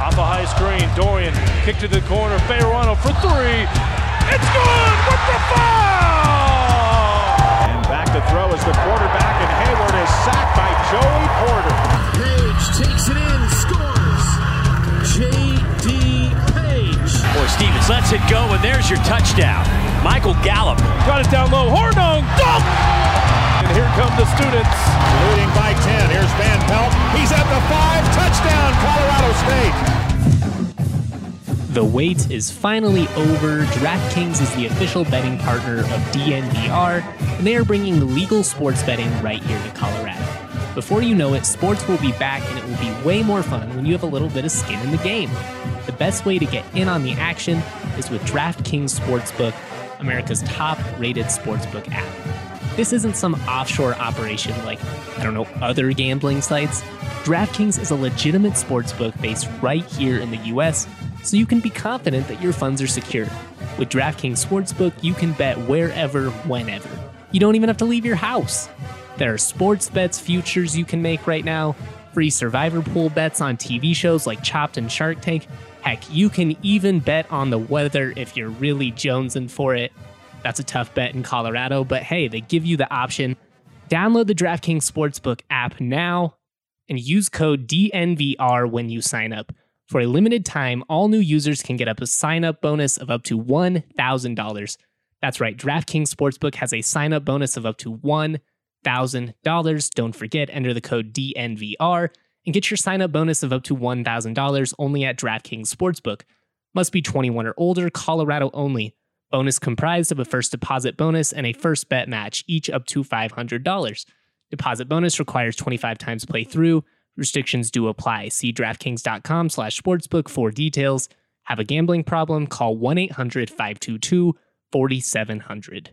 Off a high screen, Dorian kick to the corner, Fayerano for three. It's good with the foul! And back to throw is the quarterback, and Hayward is sacked by Joey Porter. Page takes it in, scores. J.D. Page. Boy, Stevens lets it go, and there's your touchdown. Michael Gallup. Got it down low, Hornung, dunk! And here come the students. Leading by 10, here's Van Pelt. He's at the 5, touchdown, Colorado State. The wait is finally over. DraftKings is the official betting partner of DNVR, and they are bringing legal sports betting right here to Colorado. Before you know it, sports will be back, and it will be way more fun when you have a little bit of skin in the game. The best way to get in on the action is with DraftKings Sportsbook, America's top-rated sportsbook app. This isn't some offshore operation like, other gambling sites. DraftKings is a legitimate sportsbook based right here in the US, so you can be confident that your funds are secure. With DraftKings Sportsbook, you can bet wherever, whenever. You don't even have to leave your house. There are sports bets futures you can make right now, free survivor pool bets on TV shows like Chopped and Shark Tank. Heck, you can even bet on the weather if you're really jonesing for it. That's a tough bet in Colorado, but hey, they give you the option. Download the DraftKings Sportsbook app now and use code DNVR when you sign up. For a limited time, all new users can get up a sign-up bonus of up to $1,000. That's right, DraftKings Sportsbook has a sign-up bonus of up to $1,000. Don't forget, enter the code DNVR and get your sign-up bonus of up to $1,000 only at DraftKings Sportsbook. Must be 21 or older, Colorado only. Bonus comprised of a first deposit bonus and a first bet match, each up to $500. Deposit bonus requires 25 times play through. Restrictions do apply. See DraftKings.com/sportsbook for details. Have a gambling problem? Call 1-800-522-4700.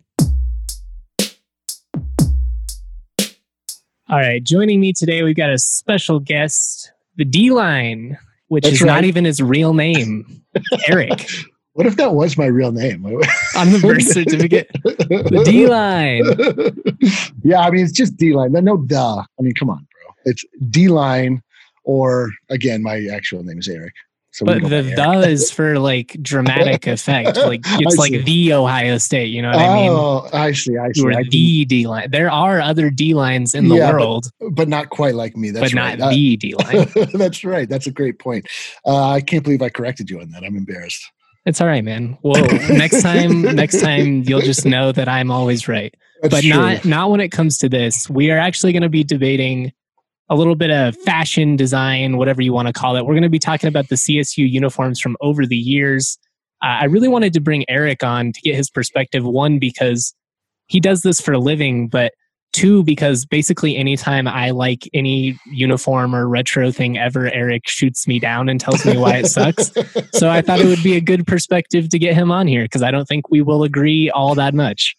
All right, joining me today, we've got a special guest, the D-Line, which is not even his real name, Eric. What if that was my real name? On the birth certificate. The D-Line. Yeah, I mean, it's just D-Line. No duh. I mean, come on, bro. It's D-Line, or, again, my actual name is Eric. So but the is for, like, dramatic effect. Like, it's like the Ohio State, you know what I mean? Oh, I see. You're the D-Line. There are other D-Lines in the world. But not quite like me. That's right. But not the D-Line. That's right. That's a great point. I can't believe I corrected you on that. I'm embarrassed. It's all right, man. Whoa. Next time you'll just know that I'm always right. That's but true. not when it comes to this. We are actually going to be debating a little bit of fashion design, whatever you want to call it. We're going to be talking about the CSU uniforms from over the years. I really wanted to bring Eric on to get his perspective. One, because he does this for a living, but two, because basically anytime I like any uniform or retro thing ever, Eric shoots me down and tells me why it sucks. So I thought it would be a good perspective to get him on here, because I don't think we will agree all that much.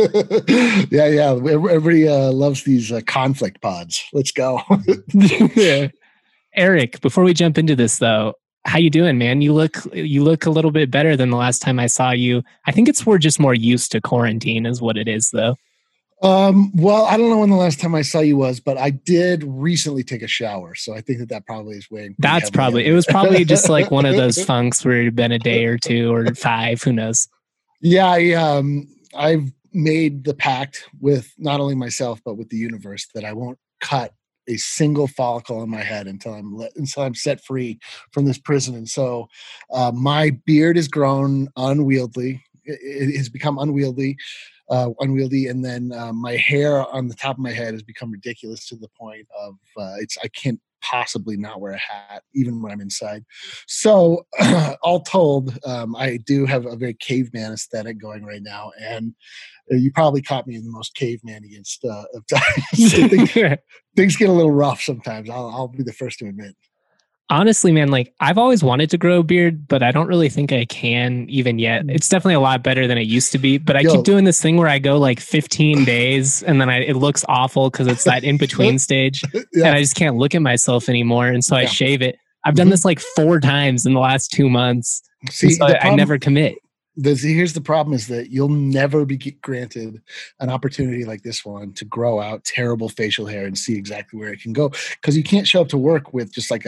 Yeah. Everybody loves these conflict pods. Let's go. Yeah. Eric, before we jump into this, though, how you doing, man? You look a little bit better than the last time I saw you. I think we're just more used to quarantine is what it is, though. Well, I don't know when the last time I saw you was, but I did recently take a shower. So I think that probably is weighing. It was probably just like one of those funks where it'd been a day or two or 5, who knows? Yeah, I've made the pact with not only myself, but with the universe that I won't cut a single follicle in my head until I'm set free from this prison. And so, my beard has grown unwieldy. It has become unwieldy. And then my hair on the top of my head has become ridiculous to the point of I can't possibly not wear a hat even when I'm inside. So all told, I do have a very caveman aesthetic going right now, and you probably caught me in the most caveman-iest of times. Things get a little rough sometimes. I'll be the first to admit. Honestly, man, like I've always wanted to grow a beard, but I don't really think I can even yet. It's definitely a lot better than it used to be, but I keep doing this thing where I go like 15 days and then it looks awful because it's that in-between stage and I just can't look at myself anymore. And so I shave it. I've done this like 4 times in the last 2 months. See, so I never commit. Here's the problem is that you'll never be granted an opportunity like this one to grow out terrible facial hair and see exactly where it can go, because you can't show up to work with just like a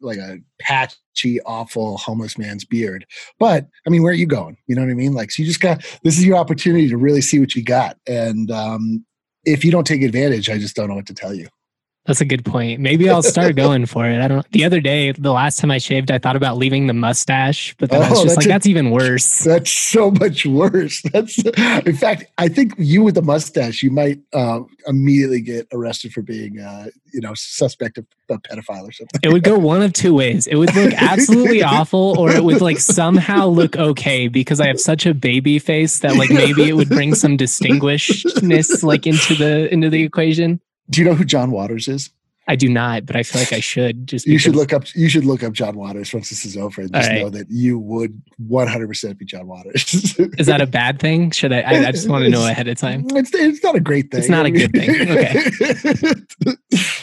patchy, awful homeless man's beard. But I mean, where are you going? You know what I mean? Like, so you just this is your opportunity to really see what you got. And if you don't take advantage, I just don't know what to tell you. That's a good point. Maybe I'll start going for it. I don't. The other day, the last time I shaved, I thought about leaving the mustache, but then I was just like, that's even worse. That's so much worse. In fact, I think you with the mustache, you might immediately get arrested for being, suspect of a pedophile or something. It would go one of two ways. It would look absolutely awful, or it would like somehow look okay because I have such a baby face that like maybe it would bring some distinguishedness like into the equation. Do you know who John Waters is? I do not, but I feel like I should. You should look up John Waters once this is over, and just know that you would 100% be John Waters. Is that a bad thing? Should I just want to know ahead of time. It's not a great thing. It's not a good thing.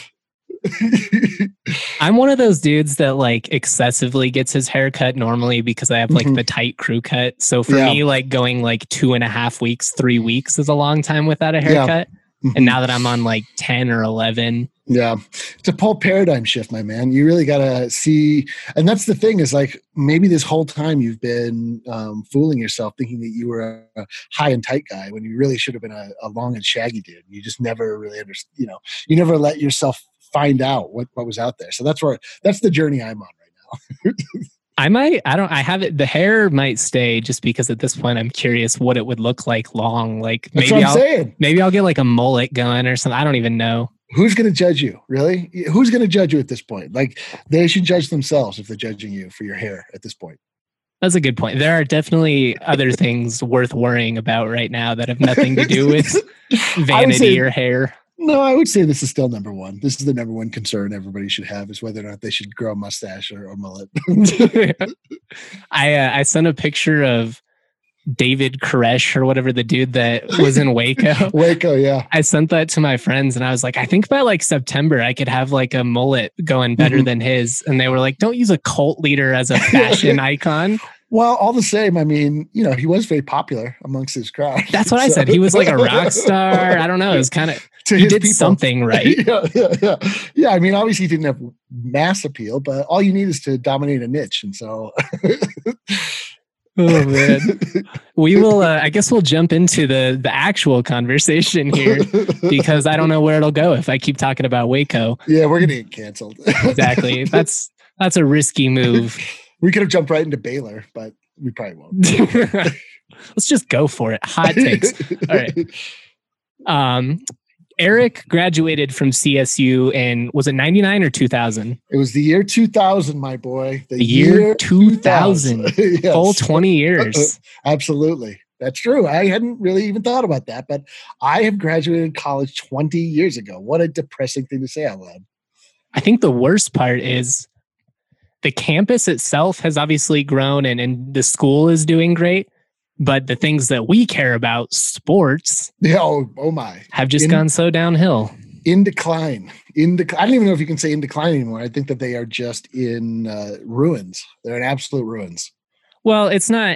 Okay. I'm one of those dudes that like excessively gets his hair cut normally because I have like the tight crew cut. So for me, like going like 2.5 weeks, 3 weeks is a long time without a haircut. Yeah. And now that I'm on like 10 or 11. Yeah. It's a whole paradigm shift, my man. You really got to see. And that's the thing is like, maybe this whole time you've been fooling yourself thinking that you were a high and tight guy when you really should have been a long and shaggy dude. You just never really understood, you never let yourself find out what was out there. So that's the journey I'm on right now. I have it. The hair might stay just because at this point I'm curious what it would look like long. Like maybe I'll get like a mullet going or something. I don't even know. Who's going to judge you? Really? Who's going to judge you at this point? Like they should judge themselves if they're judging you for your hair at this point. That's a good point. There are definitely other things worth worrying about right now that have nothing to do with vanity or hair. No, I would say this is still number one. This is the number one concern everybody should have is whether or not they should grow a mustache or mullet. I sent a picture of David Koresh or whatever, the dude that was in Waco. Waco, yeah. I sent that to my friends and I was like, I think by like September I could have like a mullet going better than his. And they were like, don't use a cult leader as a fashion icon. Well, all the same, I mean, he was very popular amongst his crowd. That's what I said. He was like a rock star. I don't know. It was kind of, he did something right. Yeah. I mean, obviously he didn't have mass appeal, but all you need is to dominate a niche. And so. Oh, man. We will, I guess we'll jump into the actual conversation here because I don't know where it'll go if I keep talking about Waco. Yeah, we're going to get canceled. Exactly. That's a risky move. We could have jumped right into Baylor, but we probably won't. Let's just go for it. Hot takes. All right. Eric graduated from CSU in, was it 99 or 2000? It was the year 2000, my boy. The year 2000. Yes. Full 20 years. Absolutely. That's true. I hadn't really even thought about that, but I have graduated college 20 years ago. What a depressing thing to say out loud. I think the worst part is the campus itself has obviously grown and the school is doing great, but the things that we care about, sports, oh my, have just gone so downhill. In decline. I don't even know if you can say in decline anymore. I think that they are just in ruins. They're in absolute ruins. Well, it's not.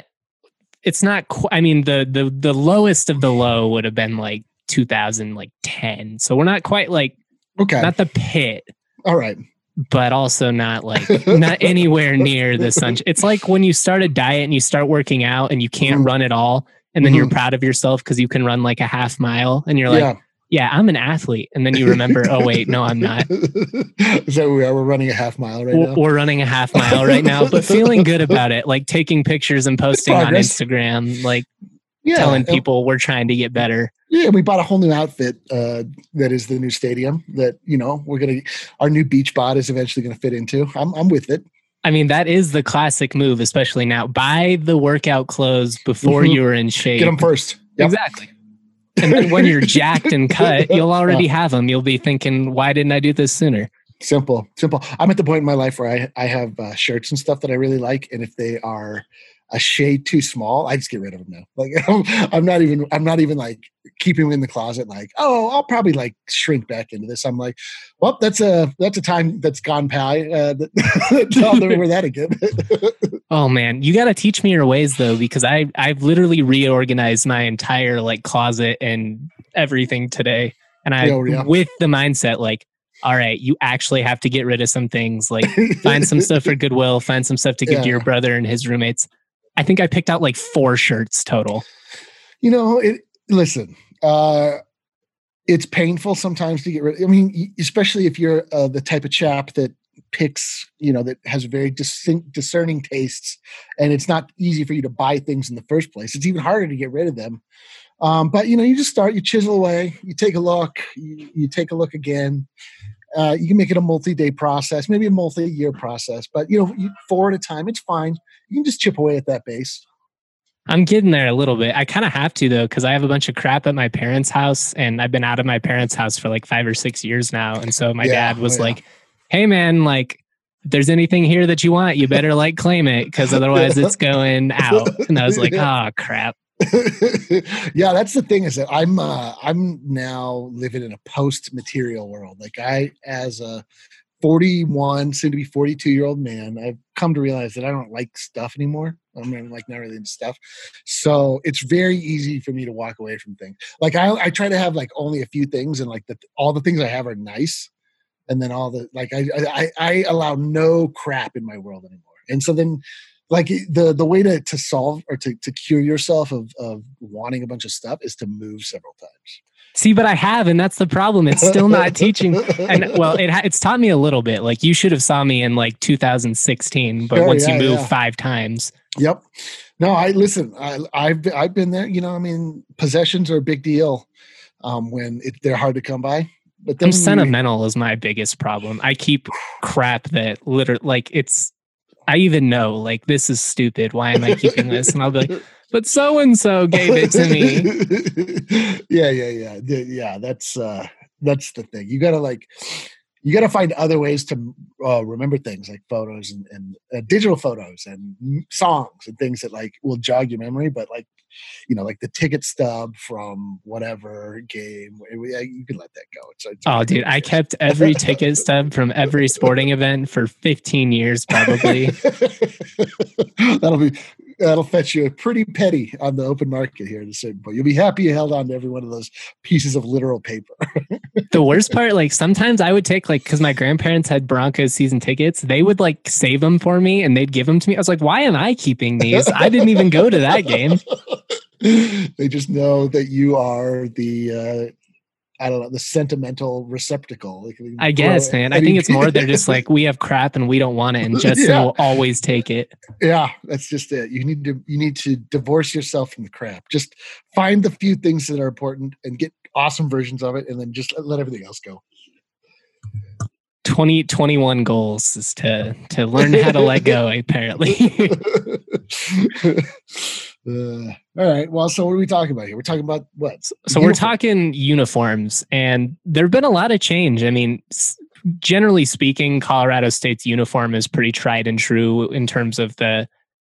I mean, the lowest of the low would have been like 2010. So we're not quite like not the pit. All right. But also not anywhere near the sun. It's like when you start a diet and you start working out and you can't run at all. And then you're proud of yourself because you can run like a half mile and you're like, yeah, I'm an athlete. And then you remember, oh wait, no, I'm not. So we're running a half mile right now. We're running a half mile right now, but feeling good about it. Like taking pictures and posting on Instagram, like telling people we're trying to get better. Yeah, we bought a whole new outfit that is the new stadium that, our new beach bod is eventually going to fit into. I'm with it. I mean, that is the classic move, especially now. Buy the workout clothes before you're in shape. Get them first. Yep. Exactly. And then when you're jacked and cut, you'll already have them. You'll be thinking, why didn't I do this sooner? Simple. I'm at the point in my life where I have shirts and stuff that I really like. And if they are a shade too small, I just get rid of them now. Like I'm not even like keeping them in the closet. Like, oh, I'll probably like shrink back into this. I'm like, well, that's a time that's gone by. I'll never wear that again. Oh man, you got to teach me your ways though, because I've literally reorganized my entire like closet and everything today, and with the mindset like all right, you actually have to get rid of some things, like find some stuff for Goodwill, find some stuff to give to your brother and his roommates. I think I picked out like 4 shirts total. Listen, it's painful sometimes to get rid of. I mean, especially if you're the type of chap that picks, that has very discerning tastes, and it's not easy for you to buy things in the first place. It's even harder to get rid of them. But you just start, you chisel away, you take a look, you take a look again. You can make it a multi-day process, maybe a multi-year process, but 4 at a time, it's fine. You can just chip away at that base. I'm getting there a little bit. I kind of have to, though, because I have a bunch of crap at my parents' house, and I've been out of my parents' house for like 5 or 6 years now. And so my dad was like, hey man, like, if there's anything here that you want, you better like claim it, because otherwise it's going out. And I was like, oh crap. Yeah, that's the thing, is that I'm now living in a post-material world. Like, I, as a 41, soon to be 42-year-old man, I've come to realize that I don't like stuff anymore. I'm like not really into stuff, so it's very easy for me to walk away from things. Like, I try to have like only a few things, and like all the things I have are nice, and then all the like I allow no crap in my world anymore. And so then, like, the way to solve or to cure yourself of wanting a bunch of stuff is to move several times. See, but I have, and that's the problem. It's still not teaching. And well, it's taught me a little bit. Like, you should have saw me in like 2016, but once you move 5 times. Yep. No, I've been there. I mean, possessions are a big deal when they're hard to come by. But then I'm sentimental is my biggest problem. I keep crap that literally, like, I even know, like, this is stupid. Why am I keeping this? And I'll be like, but so-and-so gave it to me. Yeah. That's the thing. You gotta find other ways to remember things, like photos and digital photos and songs and things that like will jog your memory. But like, like the ticket stub from whatever game, you can let that go. It's dude, I kept every ticket stub from every sporting event for 15 years, probably. That'll fetch you a pretty penny on the open market here in a certain point. You'll be happy you held on to every one of those pieces of literal paper. The worst part, like, sometimes I would take, like, because my grandparents had Broncos season tickets, they would like save them for me and they'd give them to me. I was like, why am I keeping these? I didn't even go to that game. They just know that you are the the sentimental receptacle. Like, I guess, man. I think it's more they're just like, we have crap and we don't want it, and Justin will always take it. Yeah, that's just it. You need to divorce yourself from the crap. Just find the few things that are important and get awesome versions of it, and then just let everything else go. 2021 goals is to learn how to let go, apparently. All right. Well, so what are we talking about here? We're talking about what? So we're talking uniforms, and there have been a lot of change. I mean, generally speaking, Colorado State's uniform is pretty tried and true in terms of the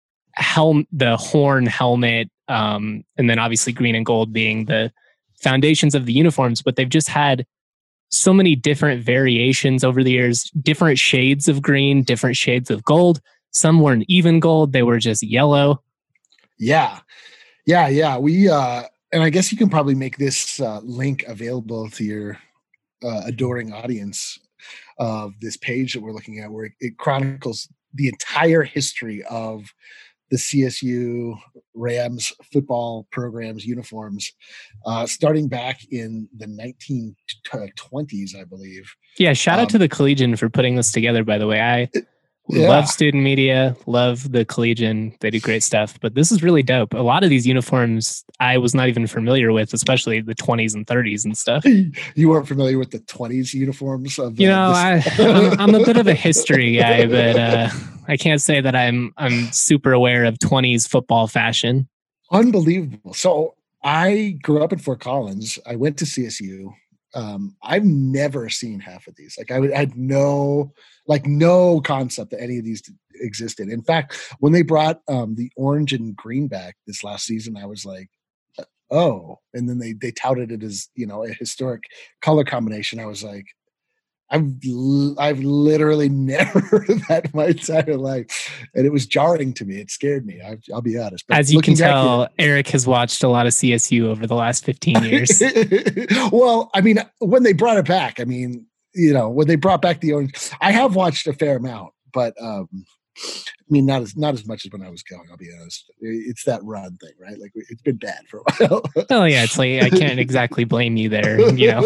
horn helmet, and then obviously green and gold being the foundations of the uniforms. But they've just had so many different variations over the years, different shades of green, different shades of gold. Some weren't even gold; they were just yellow. Yeah. We and I guess you can probably make this link available to your adoring audience of this page that we're looking at, where it chronicles the entire history of the CSU Rams football program's uniforms, starting back in the 1920s, I believe. Yeah, shout out to the Collegian for putting this together, by the way. Love student media, love the Collegian. They do great stuff, but this is really dope. A lot of these uniforms I was not even familiar with, especially the 20s and 30s and stuff. You weren't familiar with the 20s uniforms? I'm a bit of a history guy, but I can't say that I'm super aware of 20s football fashion. Unbelievable. So I grew up in Fort Collins. I went to CSU. I've never seen half of these. Like, I had no concept that any of these existed. In fact, when they brought the orange and green back this last season, I was like, oh. And then they touted it as, a historic color combination. I was like, I've literally never heard of that in my entire life, and it was jarring to me. It scared me. I'll be honest. But as you can tell, Eric has watched a lot of CSU over the last 15 years. Well, I mean, when they brought it back, I mean, when they brought back the orange, I have watched a fair amount, but I mean, not as much as when I was going. I'll be honest. It's that run thing, right? Like it's been bad for a while. Oh yeah, it's like I can't exactly blame you there.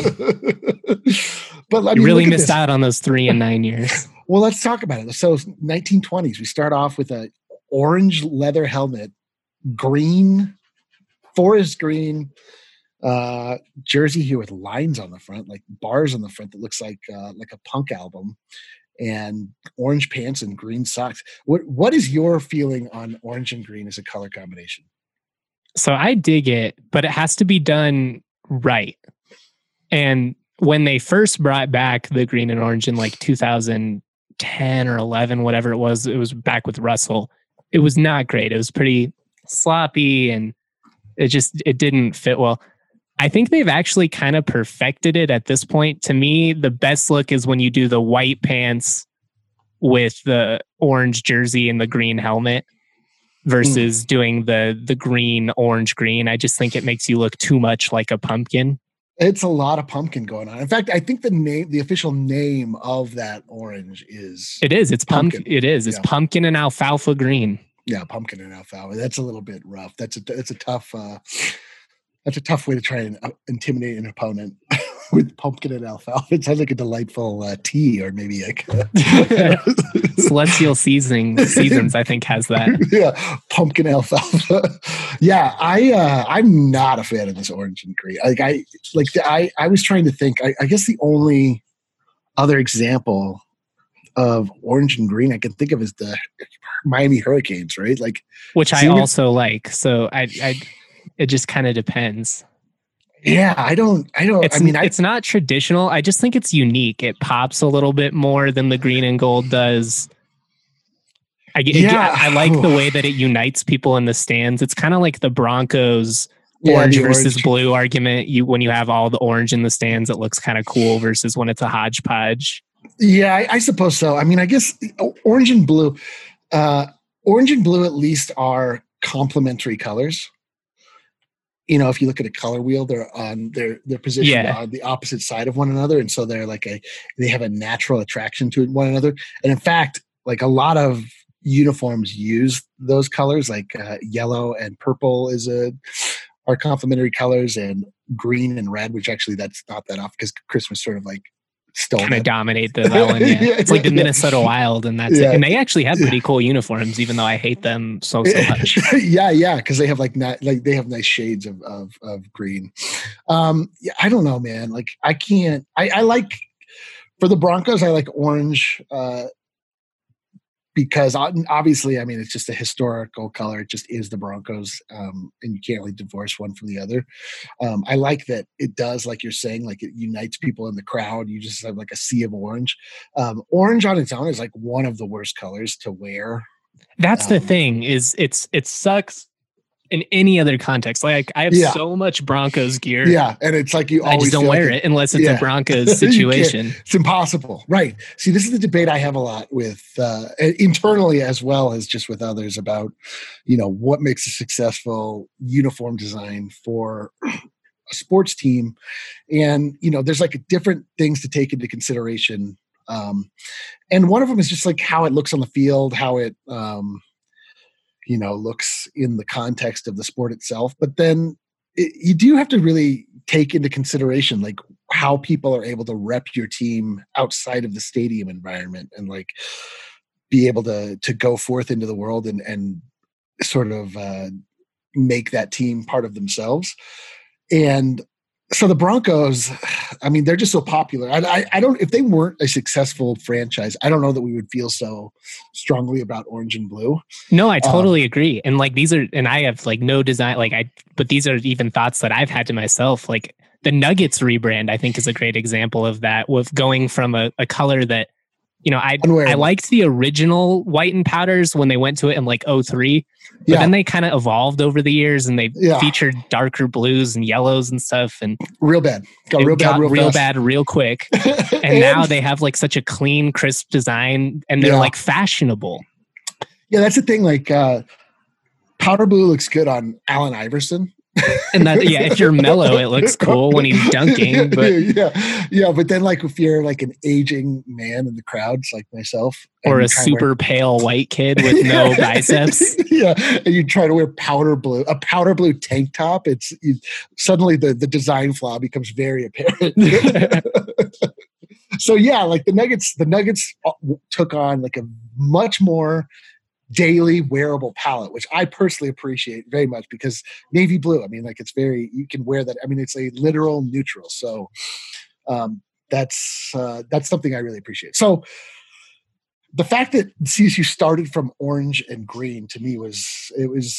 But I mean, you really missed out on those 3 and 9 years. Well, let's talk about it. So 1920s, we start off with a orange leather helmet, green, forest green jersey here with lines on the front, like bars on the front that looks like a punk album, and orange pants and green socks. What is your feeling on orange and green as a color combination? So I dig it, but it has to be done right. And when they first brought back the green and orange in like 2010 or 11, whatever it was back with Russell. It was not great. It was pretty sloppy and it didn't fit well. I think they've actually kind of perfected it at this point. To me, the best look is when you do the white pants with the orange jersey and the green helmet versus doing the green, orange, green. I just think it makes you look too much like a pumpkin. It's a lot of pumpkin going on. In fact, I think the official name of that orange is... It is. It's pumpkin. It is. It's pumpkin and alfalfa green. Yeah, pumpkin and alfalfa. That's a little bit rough. That's a tough way to try and intimidate an opponent with pumpkin and alfalfa. It sounds like a delightful tea, or maybe like Celestial Seasons, I think, has that. Yeah, pumpkin alfalfa. Yeah, I'm not a fan of this orange and green. I was trying to think. I guess the only other example of orange and green I can think of is the Miami Hurricanes, right? Like, which I also like. So it just kind of depends. Yeah, I don't. It's not traditional. I just think it's unique. It pops a little bit more than the green and gold does. I like the way that it unites people in the stands. It's kind of like the Broncos orange versus blue argument. When you have all the orange in the stands, it looks kind of cool versus when it's a hodgepodge. Yeah, I suppose so. I mean, I guess orange and blue at least are complementary colors. If you look at a color wheel, they're positioned on the opposite side of one another, and so they're they have a natural attraction to one another. And in fact, like a lot of uniforms use those colors, like yellow and purple are complementary colors, and green and red, which actually that's not that off because Christmas sort of like stole kind of dominate that one. Yeah. It's like the Minnesota Wild, and that's it. And they actually have pretty cool uniforms, even though I hate them so much. yeah, because they have they have nice shades of green. I don't know, man. Like I can't. I like for the Broncos. I like orange. Because obviously, I mean, it's just a historical color. It just is the Broncos, and you can't really divorce one from the other. I like that it does, like you're saying, like it unites people in the crowd. You just have like a sea of orange. Orange on its own is like one of the worst colors to wear. That's the thing is it sucks in any other context. Like I have so much Broncos gear. Yeah. And it's like I just don't wear it unless it's a Broncos situation. It's impossible. Right. See, this is the debate I have a lot with internally as well as just with others about, what makes a successful uniform design for a sports team. And, there's like different things to take into consideration. And one of them is just like how it looks on the field, how it, looks in the context of the sport itself. But then you do have to really take into consideration like how people are able to rep your team outside of the stadium environment and like be able to go forth into the world and sort of make that team part of themselves. And so the Broncos, I mean, they're just so popular. I don't, if they weren't a successful franchise, I don't know that we would feel so strongly about orange and blue. No, I totally agree. And like these are, and I have like no design, but these are even thoughts that I've had to myself. Like the Nuggets rebrand, I think is a great example of that, with going from a color that, I liked the original white and powders when they went to it in like 2003, but then they kind of evolved over the years and they featured darker blues and yellows and stuff, and real bad, got real bad real quick. And now they have like such a clean, crisp design, and they're like fashionable. Yeah, that's the thing. Like powder blue looks good on Allen Iverson, And that, yeah, if you're mellow, it looks cool when he's dunking. But yeah. But then, like, if you're like an aging man in the crowds, like myself, or a super pale white kid with no biceps, yeah, and you try to wear powder blue tank top, suddenly the design flaw becomes very apparent. So yeah, like the Nuggets took on like a much more daily wearable palette, which I personally appreciate very much, because navy blue, I mean, like, you can wear that. I mean, it's a literal neutral. So that's something I really appreciate. So the fact that CSU started from orange and green, to me, was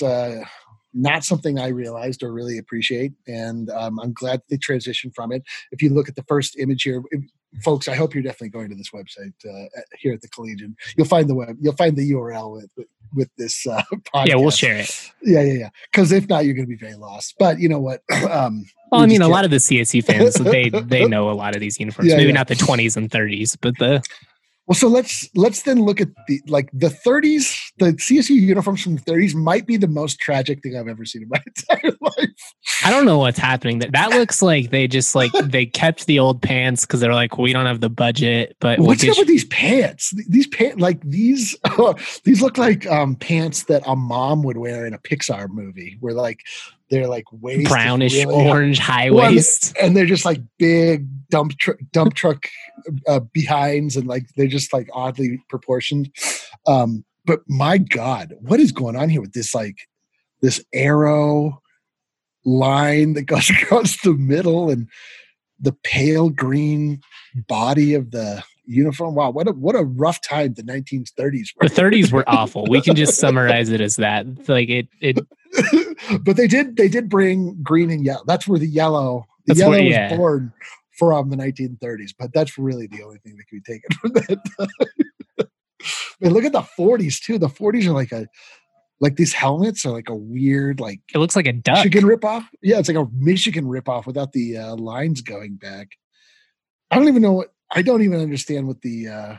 not something I realized or really appreciate. And I'm glad they transitioned from it. If you look at the first image here, folks, I hope you're definitely going to this website here at the Collegian. You'll find the URL with this podcast. Yeah, we'll share it. Yeah. Because if not, you're going to be very lost. But you know what? Well, I mean, a lot of the CSU fans, they know a lot of these uniforms. Maybe not the 20s and 30s, but the... Well, so let's then look at the 30s. The CSU uniforms from the 30s might be the most tragic thing I've ever seen in my entire life. I don't know what's happening. That looks like they just they kept the old pants because they're like, we don't have the budget. But what's up with these pants? These pants, like these look like pants that a mom would wear in a Pixar movie, where like they're like waist brownish really orange high waist, and they're just like big dump truck behinds, and like they're just like oddly proportioned. But my God, what is going on here with this arrow line that goes across the middle and the pale green body of the uniform? Wow, what a rough time the 1930s were. The 30s were awful. We can just summarize it as that. Like it. But they did bring green and yellow. That's where the yellow was born from the 1930s. But that's really the only thing that can be taken from that time. And look at the 40s too. The 40s are like these helmets are like a weird, like, it looks like a duck. Michigan ripoff. Yeah, it's like a Michigan ripoff without the lines going back. I don't even understand what the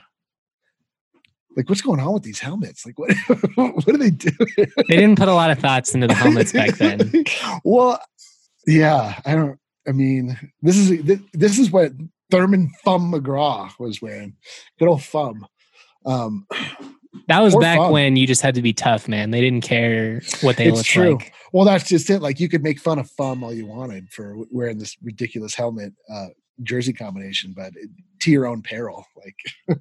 what's going on with these helmets. Like, what do they do? They didn't put a lot of thoughts into the helmets back then. Well, yeah, I mean, this is what Thurman Thumb McGraw was wearing. Good old Thumb. That was back when you just had to be tough, man. They didn't care what they looked like. Well, that's just it. Like, you could make fun of Thumb all you wanted for wearing this ridiculous helmet jersey combination, but to your own peril. Like,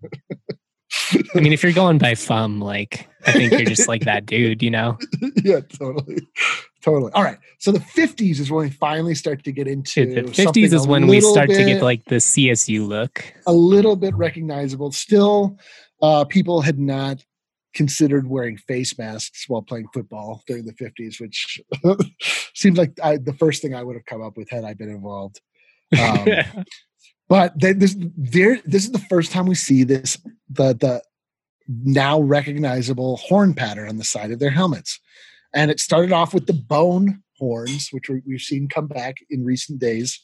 I mean, if you're going by Thumb, like, I think you're just like that dude, you know? Yeah, totally. All right. So the 50s is when we finally start to get into. The 50s is when we start to get like the CSU look. A little bit recognizable. Still, people had not considered wearing face masks while playing football during the 50s, which seems like the first thing I would have come up with had I been involved. But this is the first time we see the now recognizable horn pattern on the side of their helmets. And it started off with the bone horns, which we've seen come back in recent days.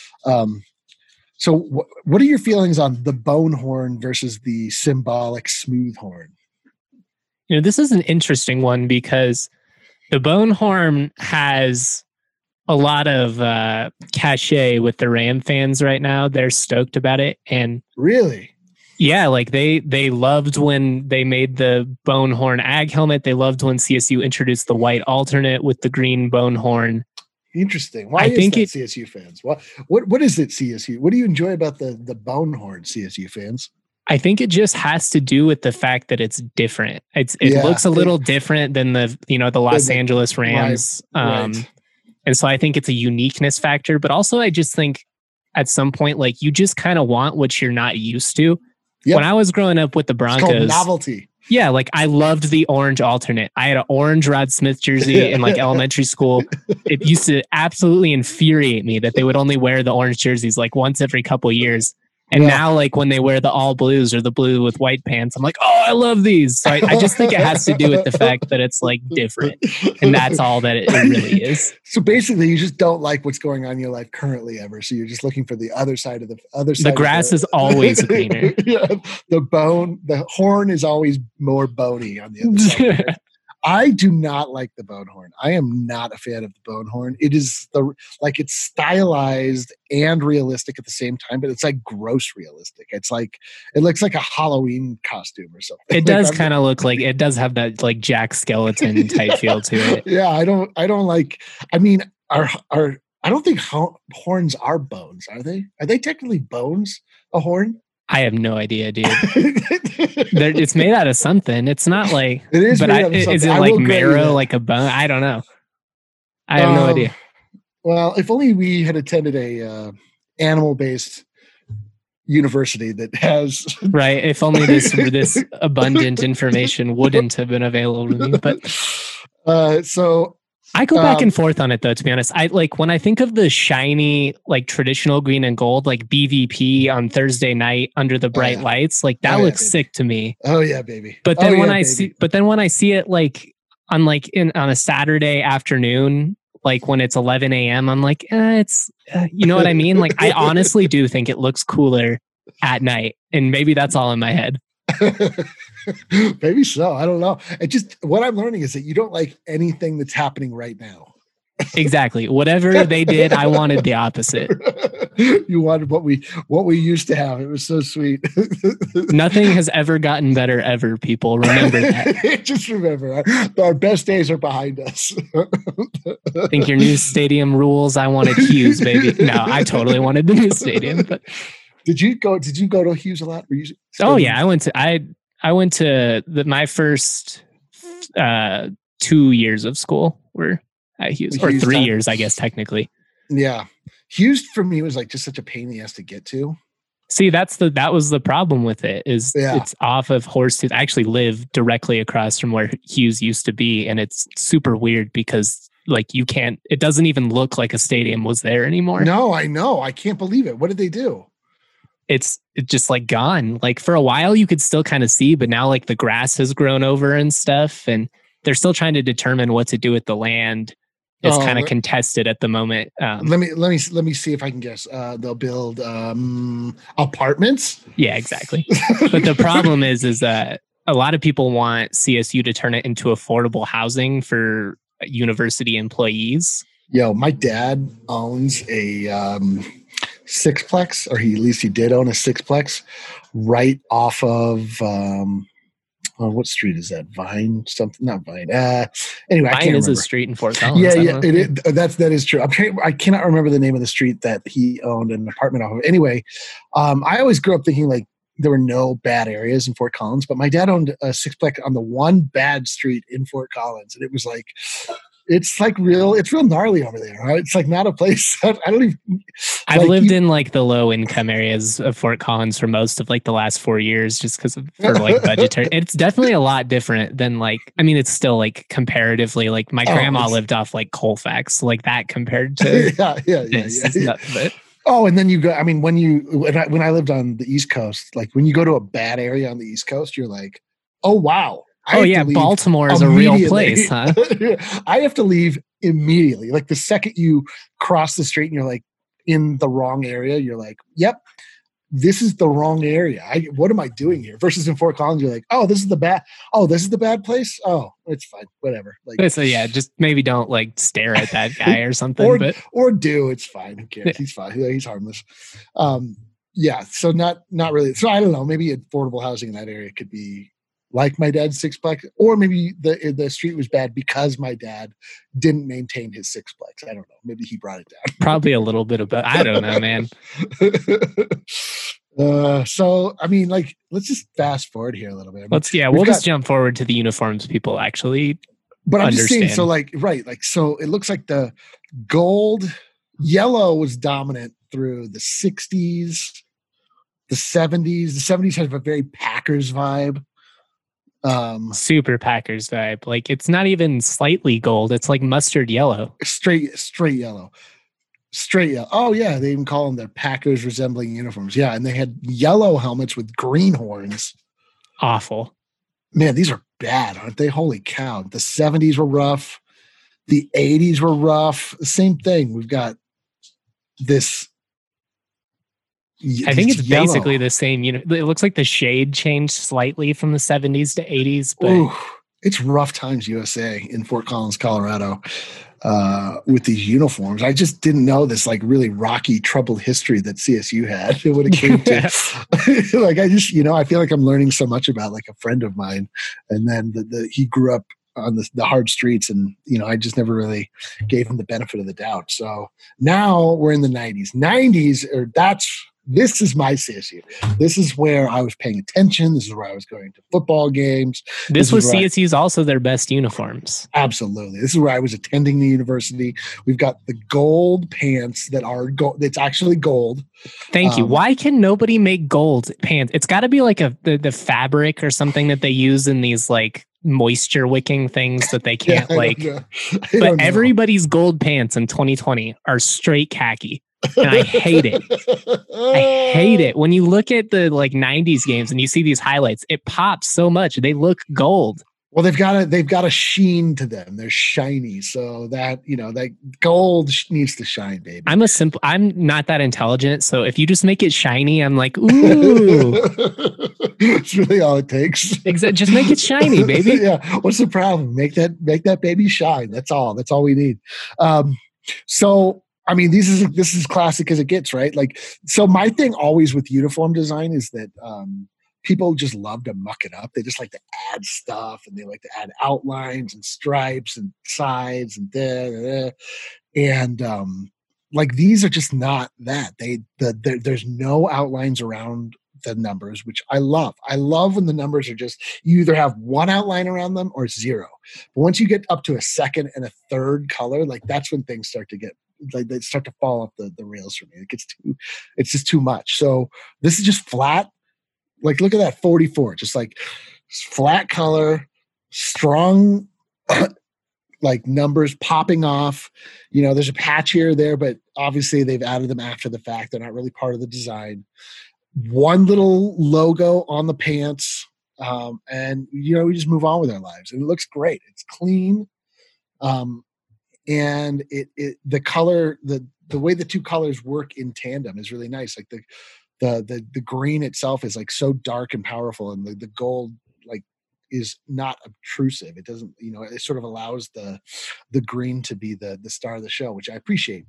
So what are your feelings on the bone horn versus the symbolic smooth horn? You know, this is an interesting one because the bone horn has a lot of cachet with the Ram fans right now. They're stoked about it. And really? Yeah, like they loved when they made the bone horn ag helmet. They loved when CSU introduced the white alternate with the green bone horn. Interesting. Why is that, CSU fans? What is it, CSU? What do you enjoy about the bone horn, CSU fans? I think it just has to do with the fact that it's different. It looks a little different than the Los Angeles Rams. Right. And so I think it's a uniqueness factor, but also I just think at some point, like, you just kind of want what you're not used to. Yep. When I was growing up with the Broncos, it's called novelty. Yeah, like I loved the orange alternate. I had an orange Rod Smith jersey in like elementary school. It used to absolutely infuriate me that they would only wear the orange jerseys like once every couple of years. And now, like, when they wear the all blues or the blue with white pants, I'm like, oh, I love these. So I just think it has to do with the fact that it's like different. And that's all that it really is. So basically, you just don't like what's going on in your life currently ever. So you're just looking for the other side of the other side. The grass is always greener. Yeah, the horn is always more bony on the other side. I do not like the bone horn. I am not a fan of the bone horn. It is it's stylized and realistic at the same time, but it's like gross realistic. It's like it looks like a Halloween costume or something. It does kind of look like it does have that like Jack Skeleton type feel to it. Yeah, I don't like. I mean, I don't think horns are bones. Are they? Are they technically bones? A horn? I have no idea, dude. It's made out of something. It's not like it is. But made out of is it like marrow, like a bone? I don't know. I have no idea. Well, if only we had attended a animal-based university that has right. If only this abundant information wouldn't have been available to me. But so. I go back and forth on it though, to be honest. I like when I think of the shiny, like traditional green and gold, like BVP on Thursday night under the bright lights, like that looks sick to me. Oh yeah, baby. But then when I see it like on a Saturday afternoon, like when it's 11 a.m., I'm like, it's you know what I mean? Like I honestly do think it looks cooler at night. And maybe that's all in my head. Maybe so. I don't know. It just what I'm learning is that you don't like anything that's happening right now. Exactly. Whatever they did, I wanted the opposite. You wanted what we used to have. It was so sweet. Nothing has ever gotten better ever, people. Remember that. Just remember, our best days are behind us. Think your new stadium rules? I wanted Hughes, baby. No, I totally wanted the new stadium. But Did you go to Hughes a lot? Oh yeah, I went to my first 2 years of school were at Hughes, or 3 years, I guess technically. Yeah, Hughes for me was like just such a pain in the ass to get to. See, that was the problem with it. It's off of Horsetooth. I actually live directly across from where Hughes used to be, and it's super weird because like it doesn't even look like a stadium was there anymore. No, I know. I can't believe it. What did they do? It's just like gone. Like for a while you could still kind of see, but now like the grass has grown over and stuff, and they're still trying to determine what to do with the land. It's kind of contested at the moment. Let me see if I can guess. They'll build apartments. Yeah, exactly. But the problem is that a lot of people want CSU to turn it into affordable housing for university employees. Yo, my dad owns a sixplex, or at least he did own a sixplex right off of what street is that? Vine? Something? Not Vine. Anyway, Vine I can't is remember. a street in Fort Collins. Yeah, that is true. I cannot remember the name of the street that he owned an apartment off of. Anyway, I always grew up thinking like there were no bad areas in Fort Collins, but my dad owned a sixplex on the one bad street in Fort Collins, and it was like. It's real gnarly over there. Right? It's like not a place that I don't even. I've lived in like the low income areas of Fort Collins for most of like the last 4 years, just because for like budgetary. It's definitely a lot different than it's still like comparatively like my grandma lived off like Colfax, like that compared to yeah. Oh, and then you go. I mean, when I lived on the East Coast, like when you go to a bad area on the East Coast, you're like, oh wow. Baltimore is a real place, huh? I have to leave immediately. Like the second you cross the street and you're like in the wrong area, you're like, yep, this is the wrong area. What am I doing here? Versus in Fort Collins, you're like, this is the bad place. Oh, it's fine. Whatever. Like, so yeah, just maybe don't like stare at that guy or something. or do. It's fine. Who cares? He's fine. He's harmless. Yeah. So not really. So I don't know. Maybe affordable housing in that area could be like my dad's sixplex, or maybe the street was bad because my dad didn't maintain his sixplex. I don't know. Maybe he brought it down. Probably a little bit of both. I don't know, man. So, I mean, like, let's just fast forward here a little bit. We'll just jump forward to the uniforms people actually But I'm understand. just saying, so it looks like the yellow was dominant through the 60s, the 70s. The 70s has a very Packers vibe. Super Packers vibe. Like it's not even slightly gold. It's like mustard yellow. Straight yellow. Oh yeah, they even call them the Packers resembling uniforms. Yeah, and they had yellow helmets with green horns. Awful. Man, these are bad, aren't they? Holy cow. The 70s were rough. The 80s were rough. Same thing. We've got this. I think it's basically the same. It looks like the shade changed slightly from the 70s to 80s, but it's Rough Times USA in Fort Collins, Colorado, with these uniforms. I just didn't know this like really rocky, troubled history that CSU had when it came to like, I just, I feel like I'm learning so much about like a friend of mine, and then he grew up on the hard streets, and I just never really gave him the benefit of the doubt. So now we're in the 90s. This is my CSU. This is where I was paying attention. This is where I was going to football games. This was CSU's also their best uniforms. Absolutely. This is where I was attending the university. We've got the gold pants that are gold. It's actually gold. Thank you. Why can nobody make gold pants? It's got to be like the fabric or something that they use in these like moisture wicking things that they can't but everybody's gold pants in 2020 are straight khaki. And I hate it. I hate it. When you look at the like 90s games and you see these highlights, it pops so much. They look gold. Well, they've got a sheen to them. They're shiny. So that, that gold needs to shine, baby. I'm not that intelligent. So if you just make it shiny, I'm like, ooh. It's really all it takes. Exactly. Just make it shiny, baby. Yeah. What's the problem? Make that baby shine. That's all. That's all we need. So, I mean, this is classic as it gets, right? Like, so my thing always with uniform design is that people just love to muck it up. They just like to add stuff, and they like to add outlines and stripes and sides and and like these are just not that. There's no outlines around the numbers, which I love. I love when the numbers are just, you either have one outline around them or zero. But once you get up to a second and a third color, like that's when things start to get, like they start to fall off the rails for me. It's just too much. So this is just flat. Like, look at that 44, just like flat color, strong, like numbers popping off. There's a patch here or there, but obviously they've added them after the fact. They're not really part of the design. One little logo on the pants. And, we just move on with our lives, and it looks great. It's clean. And the color, the way the two colors work in tandem is really nice. Like the green itself is like so dark and powerful, and the gold like is not obtrusive. It doesn't, it sort of allows the green to be the star of the show, which I appreciate.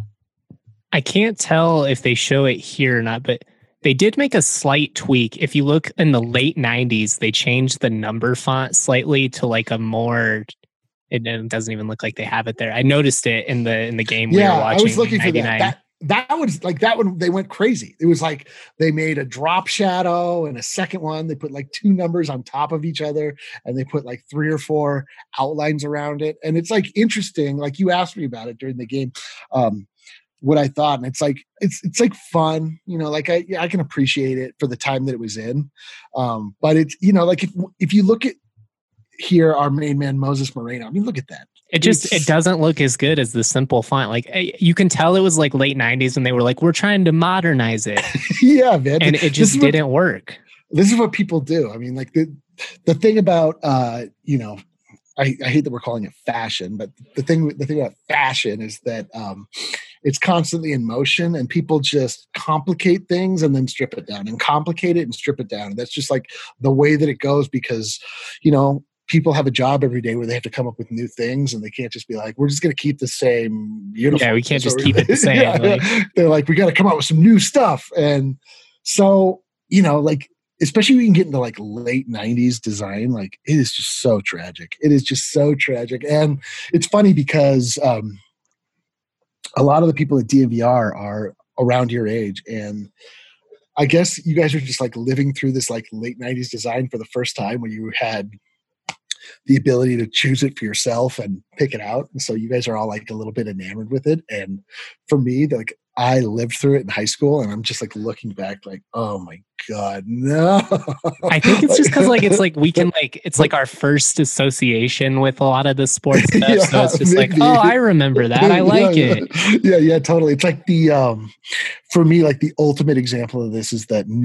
I can't tell if they show it here or not, but they did make a slight tweak. If you look in the late 90s, they changed the number font slightly to like a more, it doesn't even look like they have it there. I noticed it in the game we were watching. I was looking for 99. that. That was like, that one, they went crazy. It was like they made a drop shadow and a second one. They put like two numbers on top of each other, and they put like 3 or 4 outlines around it. And it's like interesting. Like you asked me about it during the game, what I thought. And it's like fun, like I can appreciate it for the time that it was in. But it's, like if you look at here, our main man, Moses Moreno, I mean, look at that. It doesn't look as good as the simple font. Like you can tell it was like late 90s, and they were like, we're trying to modernize it. Yeah, man. And it just didn't work. This is what people do. I mean, like the thing about, I hate that we're calling it fashion, but the thing about fashion is that it's constantly in motion, and people just complicate things and then strip it down, and complicate it and strip it down. And that's just like the way that it goes, because, people have a job every day where they have to come up with new things, and they can't just be like, we're just going to keep the same uniform. Yeah, we can't just keep it the same. Yeah. They're like, we got to come up with some new stuff. And so, like, especially when you get into like late 90s design, like it is just so tragic. It is just so tragic. And it's funny because a lot of the people at DNVR are around your age, and I guess you guys are just like living through this like late 90s design for the first time, when you had the ability to choose it for yourself and pick it out. And so you guys are all like a little bit enamored with it. And for me, like I lived through it in high school, and I'm just like looking back like, oh my God, no. I think it's just because like it's like we can like it's like our first association with a lot of the sports stuff. Yeah, so it's just maybe. like, oh, I remember that. I like it. Yeah, totally. It's like the for me, like the ultimate example of this is that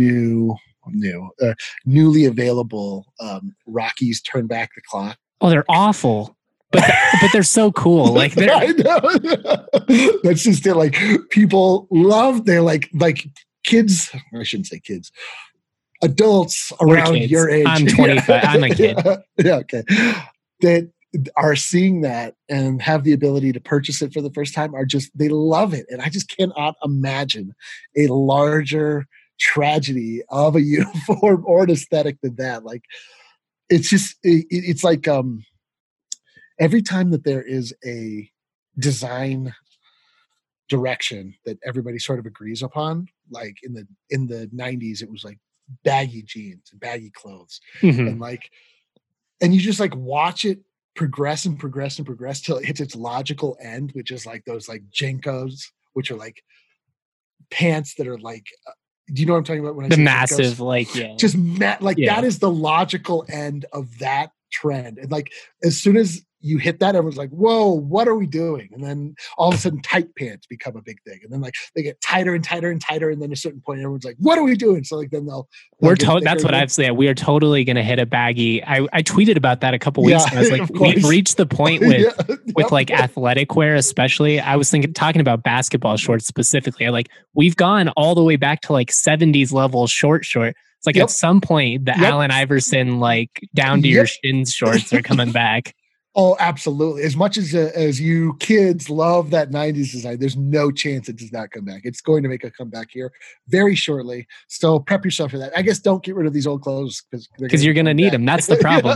newly available Rockies Turn Back the Clock. Oh, they're awful. But they're so cool. Like I know. That's just it. Like people love. They're like kids. I shouldn't say kids. adults We're around kids. your age. I'm 25. I'm a kid. Yeah, okay. That are seeing that and have the ability to purchase it for the first time they love it. And I just cannot imagine a larger tragedy of a uniform or an aesthetic than that. Like, it's just, it's like every time that there is a design direction that everybody sort of agrees upon, like in the 90s, it was like baggy jeans and baggy clothes. Mhm. And you just like watch it progress and progress and progress till it hits its logical end, which is like those like JNCOs, which are like pants that are like, do you know what I'm talking about when I The say massive, JNCOs? like, yeah. Just Yeah. that is the logical end of that trend. And like, as soon as you hit that, everyone's like, whoa, what are we doing? And then all of a sudden tight pants become a big thing. And then like they get tighter and tighter and tighter. And then at a certain point, everyone's like, what are we doing? So like, then That's what I've said. We are totally going to hit a baggy. I tweeted about that a couple weeks ago. I was like, we've reached the point with like athletic wear, especially. I was talking about basketball shorts specifically. We've gone all the way back to like 70s level short. It's like at some point the Allen Iverson, like down to your shins shorts are coming back. Oh, absolutely. As much as you kids love that 90s design, there's no chance it does not come back. It's going to make a comeback here very shortly. So prep yourself for that. I guess don't get rid of these old clothes because you're going to need them. That's the problem.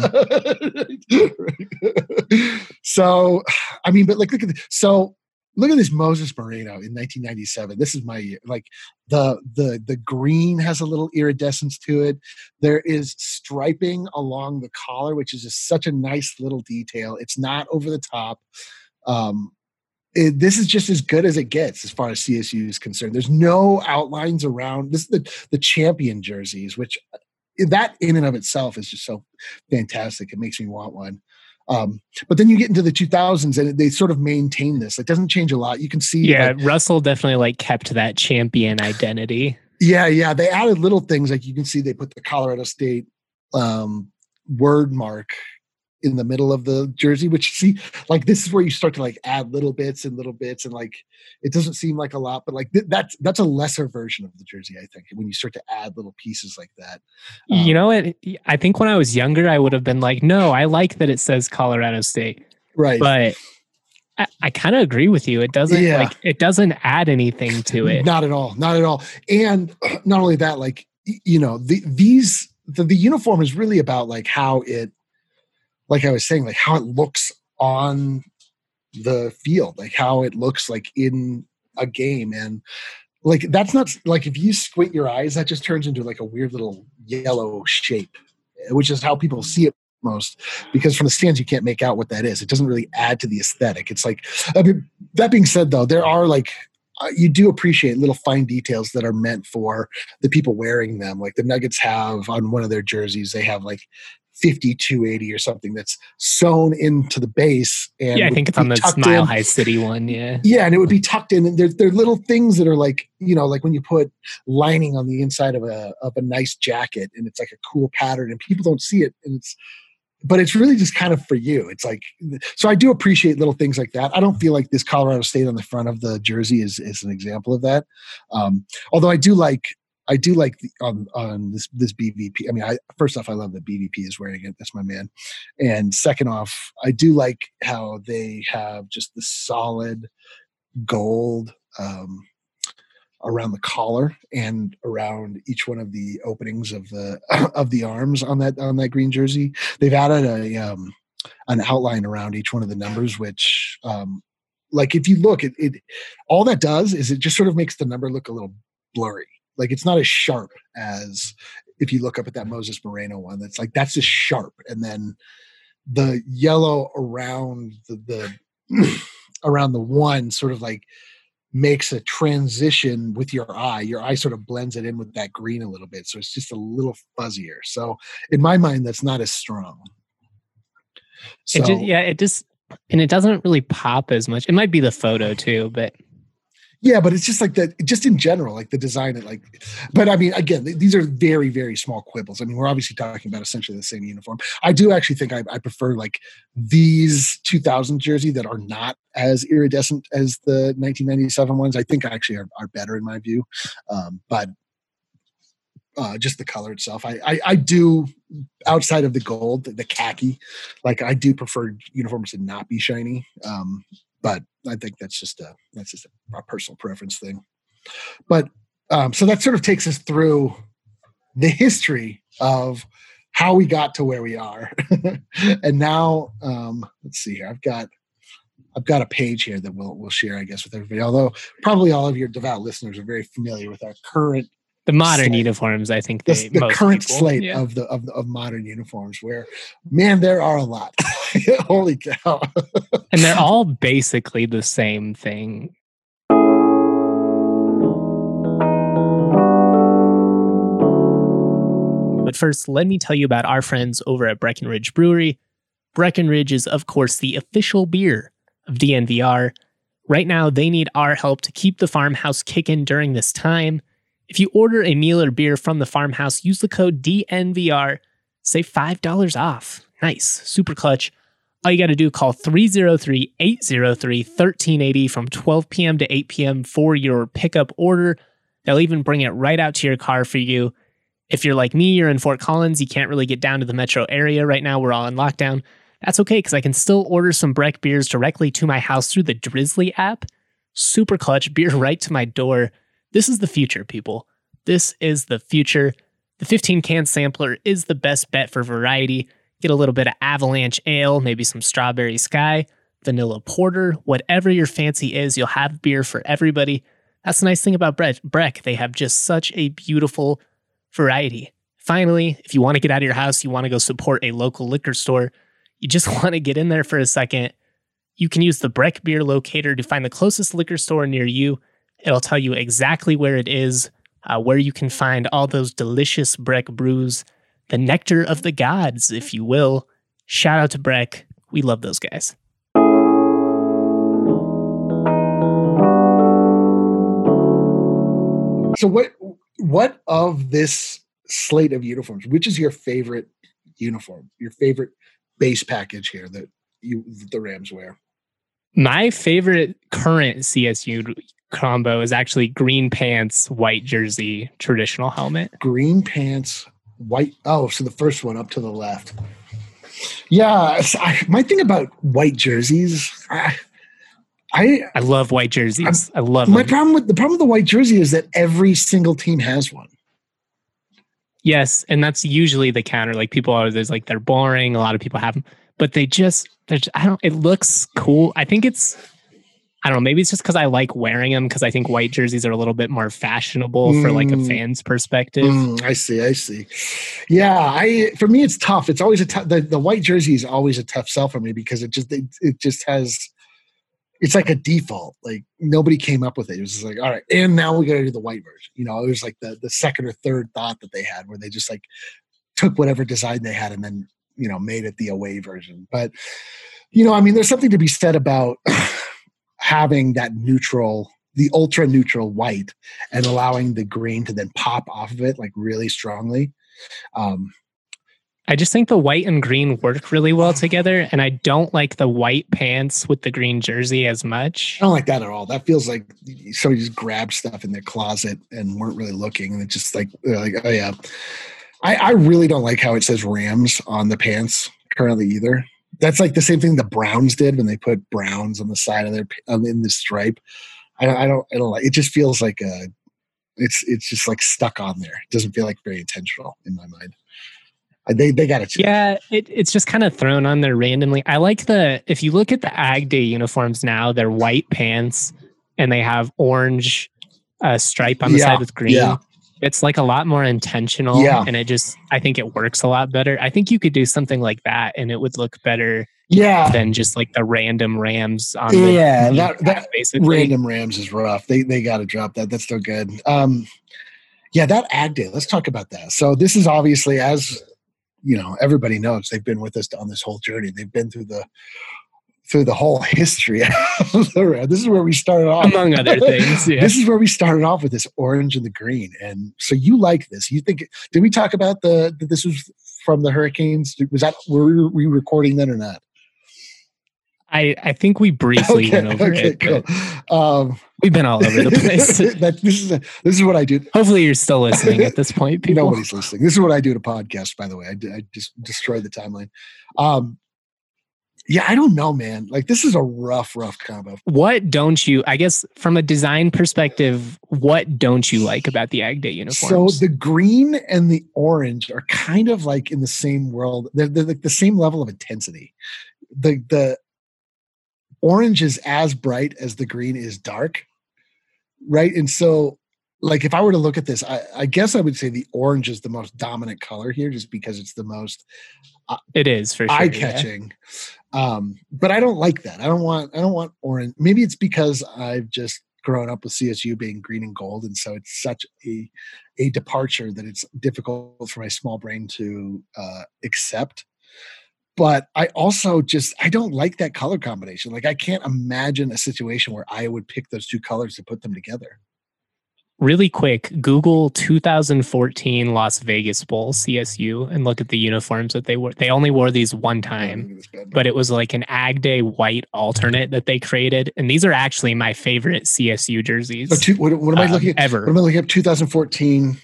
So, I mean, but like, look at this Moses Moreno in 1997. This is my year. Like the green has a little iridescence to it. There is striping along the collar, which is just such a nice little detail. It's not over the top. This is just as good as it gets as far as CSU is concerned. There's no outlines around. This is the champion jerseys, which that in and of itself is just so fantastic. It makes me want one. But then you get into the 2000s and they sort of maintain this. It doesn't change a lot. You can see. Yeah, Russell definitely like kept that champion identity. Yeah. They added little things. Like you can see they put the Colorado State word mark in the middle of the jersey, which like this is where you start to like add little bits and like it doesn't seem like a lot, but like that's a lesser version of the jersey, I think, when you start to add little pieces like that. You know what? I think when I was younger, I would have been like, no, I like that it says Colorado State. Right. But I kind of agree with you. It doesn't it doesn't add anything to it. Not at all. And not only that, like, you know, the uniform is really about like how it, like I was saying, like how it looks on the field, like how it looks like in a game. And like, that's not like, if you squint your eyes, that just turns into like a weird little yellow shape, which is how people see it most, because from the stands, you can't make out what that is. It doesn't really add to the aesthetic. It's like, I mean, that being said though, there are like, you do appreciate little fine details that are meant for the people wearing them. Like the Nuggets have on one of their jerseys, they have like 5280 or something that's sewn into the base. And I think it's on the Mile High City one. Yeah, and it would be tucked in. And they're little things that are like, you know, like when you put lining on the inside of a nice jacket, and it's like a cool pattern, and people don't see it, but it's really just kind of for you. It's like, so I do appreciate little things like that. I don't feel like this Colorado State on the front of the jersey is an example of that. Although I do like on this BVP. I mean, first off, I love that BVP is wearing it. That's my man. And second off, I do like how they have just the solid gold around the collar and around each one of the openings of the arms on that green jersey. They've added an outline around each one of the numbers, which like if you look, it all that does is it just sort of makes the number look a little blurry. Like it's not as sharp as if you look up at that Moses Moreno one. That's like, that's just sharp. And then the yellow around the around the one sort of like makes a transition with your eye. Your eye sort of blends it in with that green a little bit. So it's just a little fuzzier. So in my mind, that's not as strong. So, it doesn't really pop as much. It might be the photo too, but yeah, but it's just like that, just in general, like the design, but I mean, again, these are very, very small quibbles. I mean, we're obviously talking about essentially the same uniform. I do actually think I prefer like these 2000 jersey that are not as iridescent as the 1997 ones. I think actually are better in my view. But just the color itself. I do, outside of the gold, the khaki, like I do prefer uniforms to not be shiny. But I think that's just a personal preference thing. But so that sort of takes us through the history of how we got to where we are. And now, let's see here. I've got a page here that we'll share, I guess, with everybody. Although probably all of your devout listeners are very familiar with our current modern slate. Uniforms. I think the current slate of modern uniforms, where, man, there are a lot. Holy cow! And they're all basically the same thing. But first, let me tell you about our friends over at Breckenridge Brewery. Breckenridge is, of course, the official beer of DNVR. Right now, they need our help to keep the farmhouse kicking during this time. If you order a meal or beer from the farmhouse, use the code DNVR, save $5 off. Nice, super clutch. All you got to do, call 303-803-1380 from 12 p.m. to 8 p.m. for your pickup order. They'll even bring it right out to your car for you. If you're like me, you're in Fort Collins, you can't really get down to the metro area right now, we're all in lockdown. That's okay, because I can still order some Breck beers directly to my house through the Drizzly app. Super clutch, beer right to my door. This is the future, people. This is the future. The 15-can sampler is the best bet for variety. Get a little bit of Avalanche Ale, maybe some Strawberry Sky, Vanilla Porter, whatever your fancy is, you'll have beer for everybody. That's the nice thing about Breck. They have just such a beautiful variety. Finally, if you want to get out of your house, you want to go support a local liquor store, you just want to get in there for a second, you can use the Breck Beer Locator to find the closest liquor store near you. It'll tell you exactly where it is, where you can find all those delicious Breck brews, the nectar of the gods, if you will. Shout out to Breck. We love those guys. So what of this slate of uniforms, which is your favorite uniform, your favorite base package here that the Rams wear? My favorite current CSU combo is actually green pants, white jersey, traditional helmet. Green pants, white. Oh, so the first one up to the left. Yeah, my thing about white jerseys, I love white jerseys. I love the them. problem with the white jersey is that every single team has one. Yes, and that's usually the counter. Like people are, there's like they're boring. A lot of people have them, but it looks cool. I think I don't know, maybe it's just because I like wearing them, because I think white jerseys are a little bit more fashionable for like a fan's perspective. I see. Yeah, for me it's tough. It's always the white jersey is always a tough sell for me, because it just has, it's like a default. Like nobody came up with it. It was just like, all right, and now we got to do the white version. You know, it was like the second or third thought that they had, where they just like took whatever design they had and then, you know, made it the away version. But, you know, I mean, there's something to be said about having that neutral, the ultra neutral white, and allowing the green to then pop off of it like really strongly. I just think the white and green work really well together, and I don't like the white pants with the green jersey as much. I don't like that at all. That feels like somebody just grabbed stuff in their closet and weren't really looking, and it's just like oh yeah. I really don't like how it says Rams on the pants currently either. That's like the same thing the Browns did when they put Browns on the side of their in the stripe. I don't like it. Just feels like it's just like stuck on there. It doesn't feel like very intentional in my mind. They got to change. Yeah, it's just kind of thrown on there randomly. I like if you look at the Ag Day uniforms now, they're white pants and they have orange stripe on the side with green. Yeah. It's like a lot more intentional, and I think it works a lot better. I think you could do something like that and it would look better than just like the random Rams on that basically. Random Rams is rough. They got to drop that. That's still good. That Ag Day, let's talk about that. So this is obviously, as you know, everybody knows, they've been with us on this whole journey. They've been through the whole history. This is where we started off. Among other things. Yeah. This is where we started off with this orange and the green. And so you like this. You think, did we talk about that this was from the Hurricanes? Were we recording then or not? I think we briefly went over it. Cool. We've been all over the place. This is what I do. Hopefully you're still listening at this point, people. Nobody's listening. This is what I do to podcasts, by the way. I just destroyed the timeline. Yeah, I don't know, man. Like, this is a rough combo. What don't you, I guess, from a design perspective, what don't you like about the Ag Day uniforms? So the green and the orange are kind of like in the same world. They're like the same level of intensity. The orange is as bright as the green is dark, right? And so, like, if I were to look at this, I guess I would say the orange is the most dominant color here, just because it's the most it is for sure eye-catching. Yeah. But I don't like that. I don't want orange. Maybe it's because I've just grown up with CSU being green and gold, and so it's such a departure that it's difficult for my small brain to accept. But I also I don't like that color combination. Like, I can't imagine a situation where I would pick those two colors to put them together. Really quick, Google 2014 Las Vegas Bowl CSU and look at the uniforms that they wore. They only wore these one time, but it was like an Ag Day white alternate that they created. And these are actually my favorite CSU jerseys. What am I looking at? Ever. What am I looking at? 2014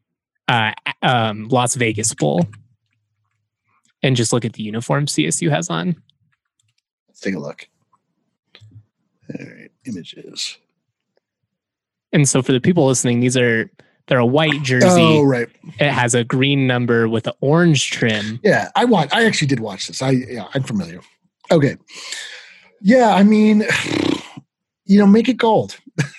Las Vegas Bowl. And just look at the uniform CSU has on. Let's take a look. All right, images. And so for the people listening, they're a white jersey. Oh, right. It has a green number with an orange trim. Yeah, I actually did watch this. I'm familiar. Okay. Yeah, I mean, make it gold.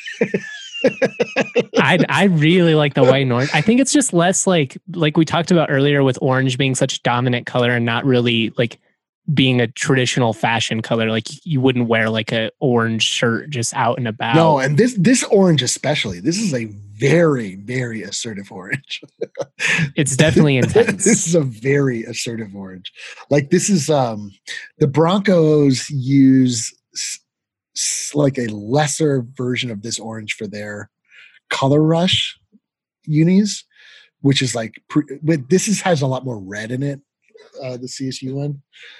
I really like the white and orange. I think it's just less like we talked about earlier with orange being such a dominant color and not really like being a traditional fashion color. Like, you wouldn't wear like a orange shirt just out and about. No, and this orange especially, this is a very, very assertive orange. It's definitely intense. This is a very assertive orange. Like, this is the Broncos use like a lesser version of this orange for their Color Rush unis, which is like has a lot more red in it. The CSU one.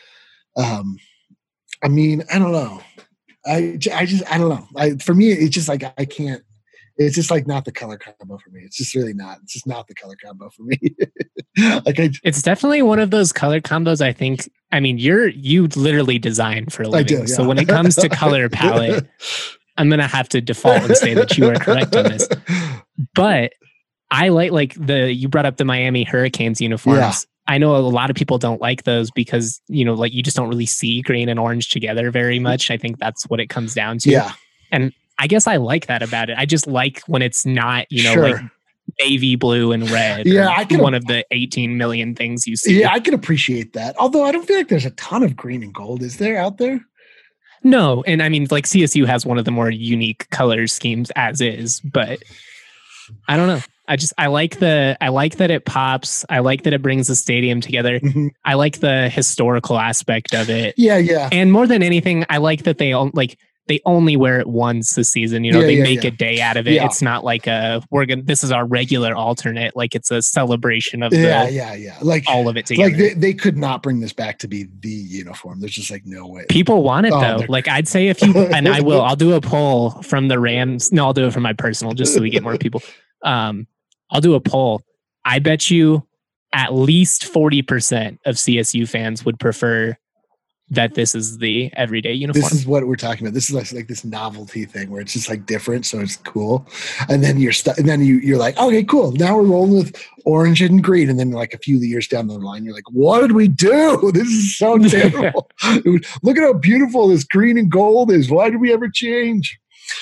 I mean, I don't know. I don't know. For me, it's just like I can't. It's just like not the color combo for me. It's just really not. It's just not the color combo for me. It's definitely one of those color combos. I think. I mean, you literally design for a living. I do, yeah. So when it comes to color palette, I'm gonna have to default and say that you are correct on this. But I like you brought up the Miami Hurricanes uniforms. Yeah. I know a lot of people don't like those because, like, you just don't really see green and orange together very much. I think that's what it comes down to. Yeah. And I guess I like that about it. I just like when it's not, sure. like navy blue and red. Yeah, I can. One of the 18 million things you see. Yeah, I can appreciate that. Although I don't feel like there's a ton of green and gold. Is there out there? No. And I mean, like, CSU has one of the more unique color schemes as is, but I don't know. I like that it pops. I like that it brings the stadium together. Mm-hmm. I like the historical aspect of it. Yeah. And more than anything, I like that they only wear it once this season. They make a day out of it. Yeah. It's not like this is our regular alternate. Like, it's a celebration of like all of it together. Like they could not bring this back to be the uniform. There's just like no way. People want it though. Like, I'd say if you and I'll do a poll from the Rams. No, I'll do it from my personal just so we get more people. I'll do a poll. I bet you at least 40% of CSU fans would prefer that this is the everyday uniform. This is what we're talking about. This is like this novelty thing where it's just like different, so it's cool. And then you're like, okay, cool. Now we're rolling with orange and green. And then like a few years down the line, you're like, what did we do? This is so terrible. Look at how beautiful this green and gold is. Why did we ever change?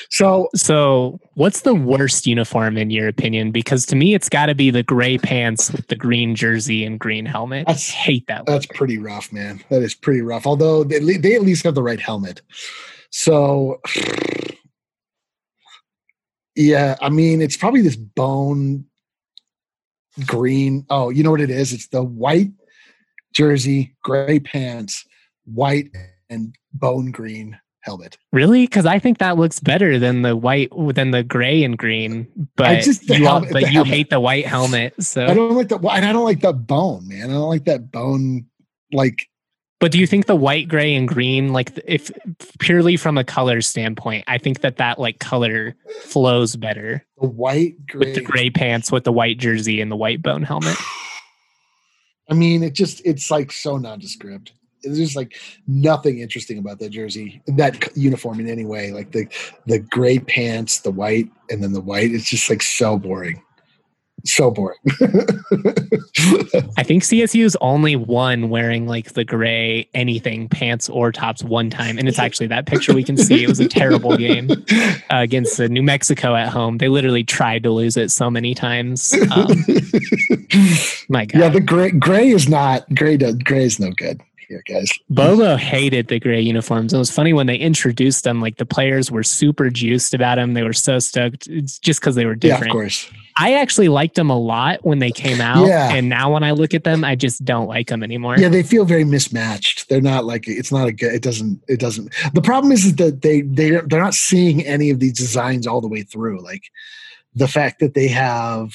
So what's the worst uniform in your opinion? Because to me, it's got to be the gray pants with the green jersey and green helmet. I hate that. That's pretty rough, man. That is pretty rough. Although they at least have the right helmet. So, yeah, I mean, it's probably this bone green. Oh, you know what it is? It's the white jersey, gray pants, white and bone green helmet. Really? Because I think that looks better than the gray and green. But you hate the white helmet. So I don't like and I don't like that bone, man. I don't like that bone. Like, But do you think the white, gray, and green, like if purely from a color standpoint, I think that like color flows better. The white, gray, with the gray pants, with the white jersey, and the white bone helmet. I mean, it's like so nondescript. There's just like nothing interesting about that jersey, that uniform in any way. Like the gray pants, the white, and then the white. It's just like so boring. So boring. I think CSU's only one wearing like the gray anything pants or tops one time, and it's actually that picture we can see. It was a terrible game against New Mexico at home. They literally tried to lose it so many times. My God. Yeah, the gray is no good here, guys. Bobo hated the gray uniforms. It was funny when they introduced them, like the players were super juiced about them. They were so stoked. It's just because they were different. Yeah, of course. I actually liked them a lot when they came out. Yeah. And now when I look at them, I just don't like them anymore. Yeah, they feel very mismatched. They're not like, it's not a good, it doesn't. The problem is that they're not seeing any of these designs all the way through. Like the fact that they have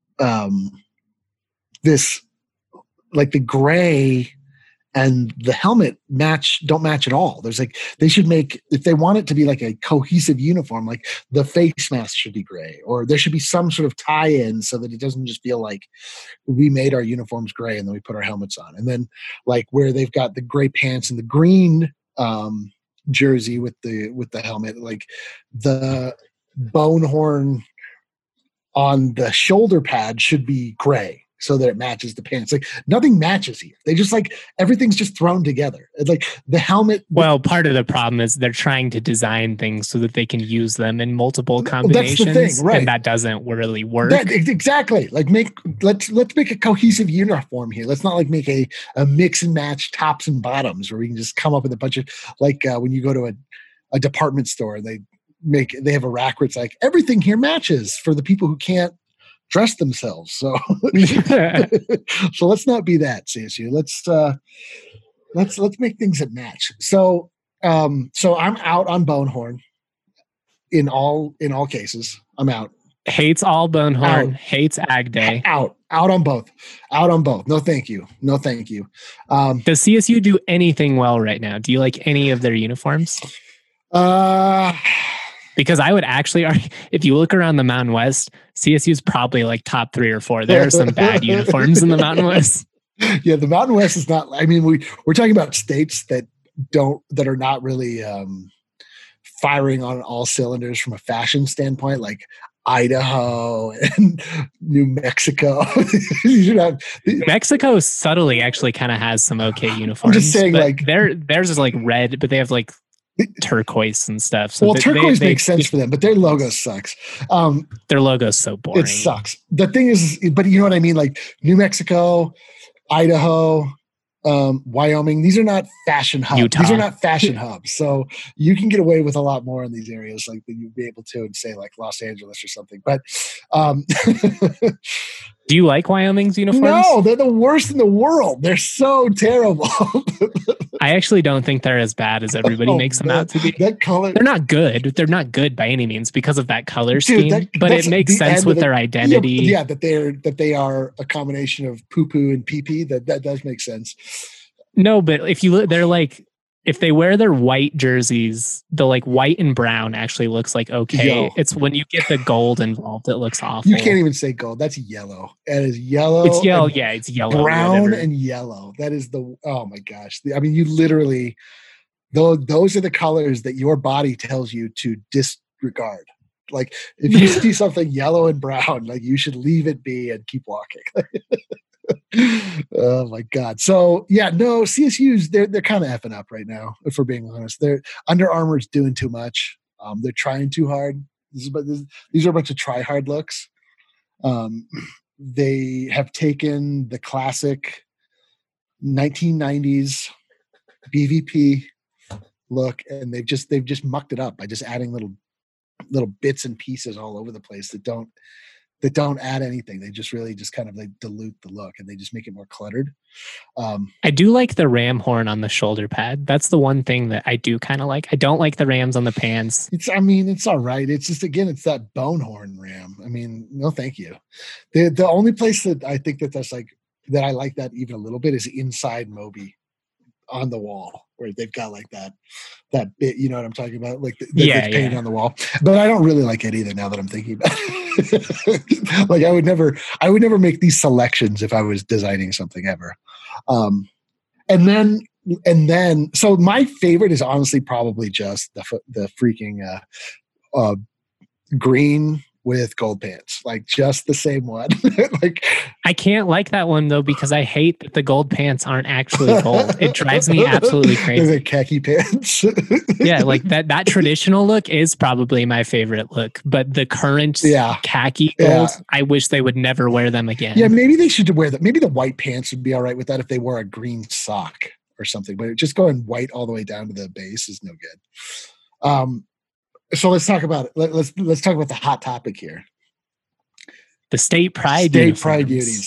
this, like the gray and the helmet don't match at all. There's like, they should make, if they want it to be like a cohesive uniform, like the face mask should be gray, or there should be some sort of tie-in so that it doesn't just feel like we made our uniforms gray and then we put our helmets on. And then like where they've got the gray pants and the green jersey with the helmet, like the bone horn on the shoulder pad should be gray, so that it matches the pants. Like nothing matches here. They just like everything's just thrown together. It's like the helmet. Well, part of the problem is they're trying to design things so that they can use them in multiple combinations. That's the thing, right? And that doesn't really work. Exactly. Like let's make a cohesive uniform here. Let's not like make a mix and match tops and bottoms where we can just come up with a bunch of like when you go to a department store, they have a rack where it's like everything here matches for the people who can't dress themselves. So so let's not be that, CSU. Let's make things that match. So I'm out on Bonehorn in all cases. I'm out. Hates all Bonehorn, hates Ag Day. Out on both. No thank you. Does CSU do anything well right now? Do you like any of their uniforms? Because I would actually argue, if you look around the Mountain West, CSU is probably like top 3 or 4. There are some bad uniforms in the Mountain West. Yeah, the Mountain West is not. I mean, we're talking about states that are not really firing on all cylinders from a fashion standpoint, like Idaho and New Mexico. Mexico subtly actually kind of has some okay uniforms. I'm just saying, like theirs is like red, but they have like turquoise and stuff. So well, turquoise makes sense for them, but their logo sucks. Their logo's so boring. It sucks. The thing is, but you know what I mean? Like New Mexico, Idaho, Wyoming, these are not fashion hubs. Utah. These are not fashion hubs. So you can get away with a lot more in these areas, like than you'd be able to in, say, like Los Angeles or something. But do you like Wyoming's uniforms? No, they're the worst in the world. They're so terrible. I actually don't think they're as bad as everybody makes them out to be. That color, they're not good. They're not good by any means because of that color scheme. But it makes sense with their identity. Yeah, that they are a combination of poo poo and pee pee. That does make sense. No, but if you look, they're like, if they wear their white jerseys, the like white and brown actually looks like okay. It's when you get the gold involved, it looks awful. You can't even say gold. That's yellow. That is yellow. It's yellow. Yeah, it's yellow. Brown and yellow. That is oh my gosh. I mean, you literally, those are the colors that your body tells you to disregard. Like if you see something yellow and brown, like you should leave it be and keep walking. Oh my God. So yeah, no, CSU's they're kind of effing up right now, if we're being honest. They're Under Armour's doing too much. They're trying too hard. These are a bunch of try hard looks. They have taken the classic 1990s BVP look and they've just mucked it up by just adding little bits and pieces all over the place that don't add anything. They just really just kind of like dilute the look and they just make it more cluttered. I do like the ram horn on the shoulder pad. That's the one thing that I do kind of like. I don't like the rams on the pants. It's all right. It's just, again, it's that bone horn ram. I mean, no, thank you. The only place that I think that I like that even a little bit is inside Moby. on the wall where they've got like that bit, you know what I'm talking about? Like the painted on the wall. But I don't really like it either now that I'm thinking about it. Like I would never make these selections if I was designing something ever. And then so my favorite is honestly probably just the freaking green with gold pants, like just the same one. Like I can't like that one though because I hate that the gold pants aren't actually gold. It drives me absolutely crazy. The khaki pants. Yeah, like that traditional look is probably my favorite look, but the current khaki gold, I wish they would never wear them again. Yeah, maybe they should wear that. Maybe the white pants would be all right with that if they wore a green sock or something, but just going white all the way down to the base is no good. So let's talk about it. Let's talk about the hot topic here. The state pride beauties.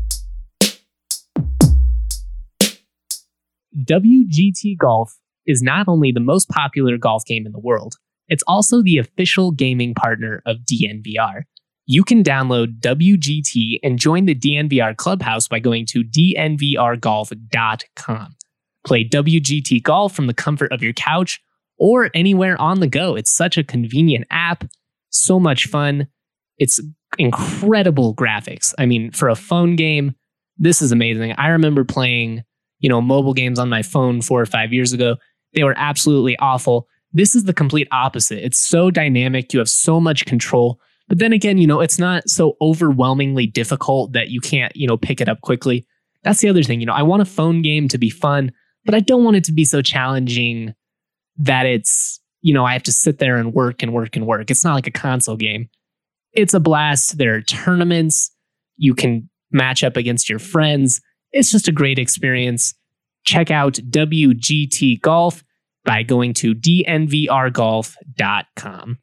WGT Golf is not only the most popular golf game in the world, it's also the official gaming partner of DNVR. You can download WGT and join the DNVR Clubhouse by going to dnvrgolf.com. Play WGT Golf from the comfort of your couch or anywhere on the go. It's such a convenient app, so much fun. It's incredible graphics. I mean, for a phone game, this is amazing. I remember playing, mobile games on my phone 4 or 5 years ago. They were absolutely awful. This is the complete opposite. It's so dynamic. You have so much control. But then again, it's not so overwhelmingly difficult that you can't, pick it up quickly. That's the other thing. I want a phone game to be fun, but I don't want it to be so challenging that it's, I have to sit there and work and work and work. It's not like a console game. It's a blast. There are tournaments. You can match up against your friends. It's just a great experience. Check out WGT Golf by going to dnvrgolf.com.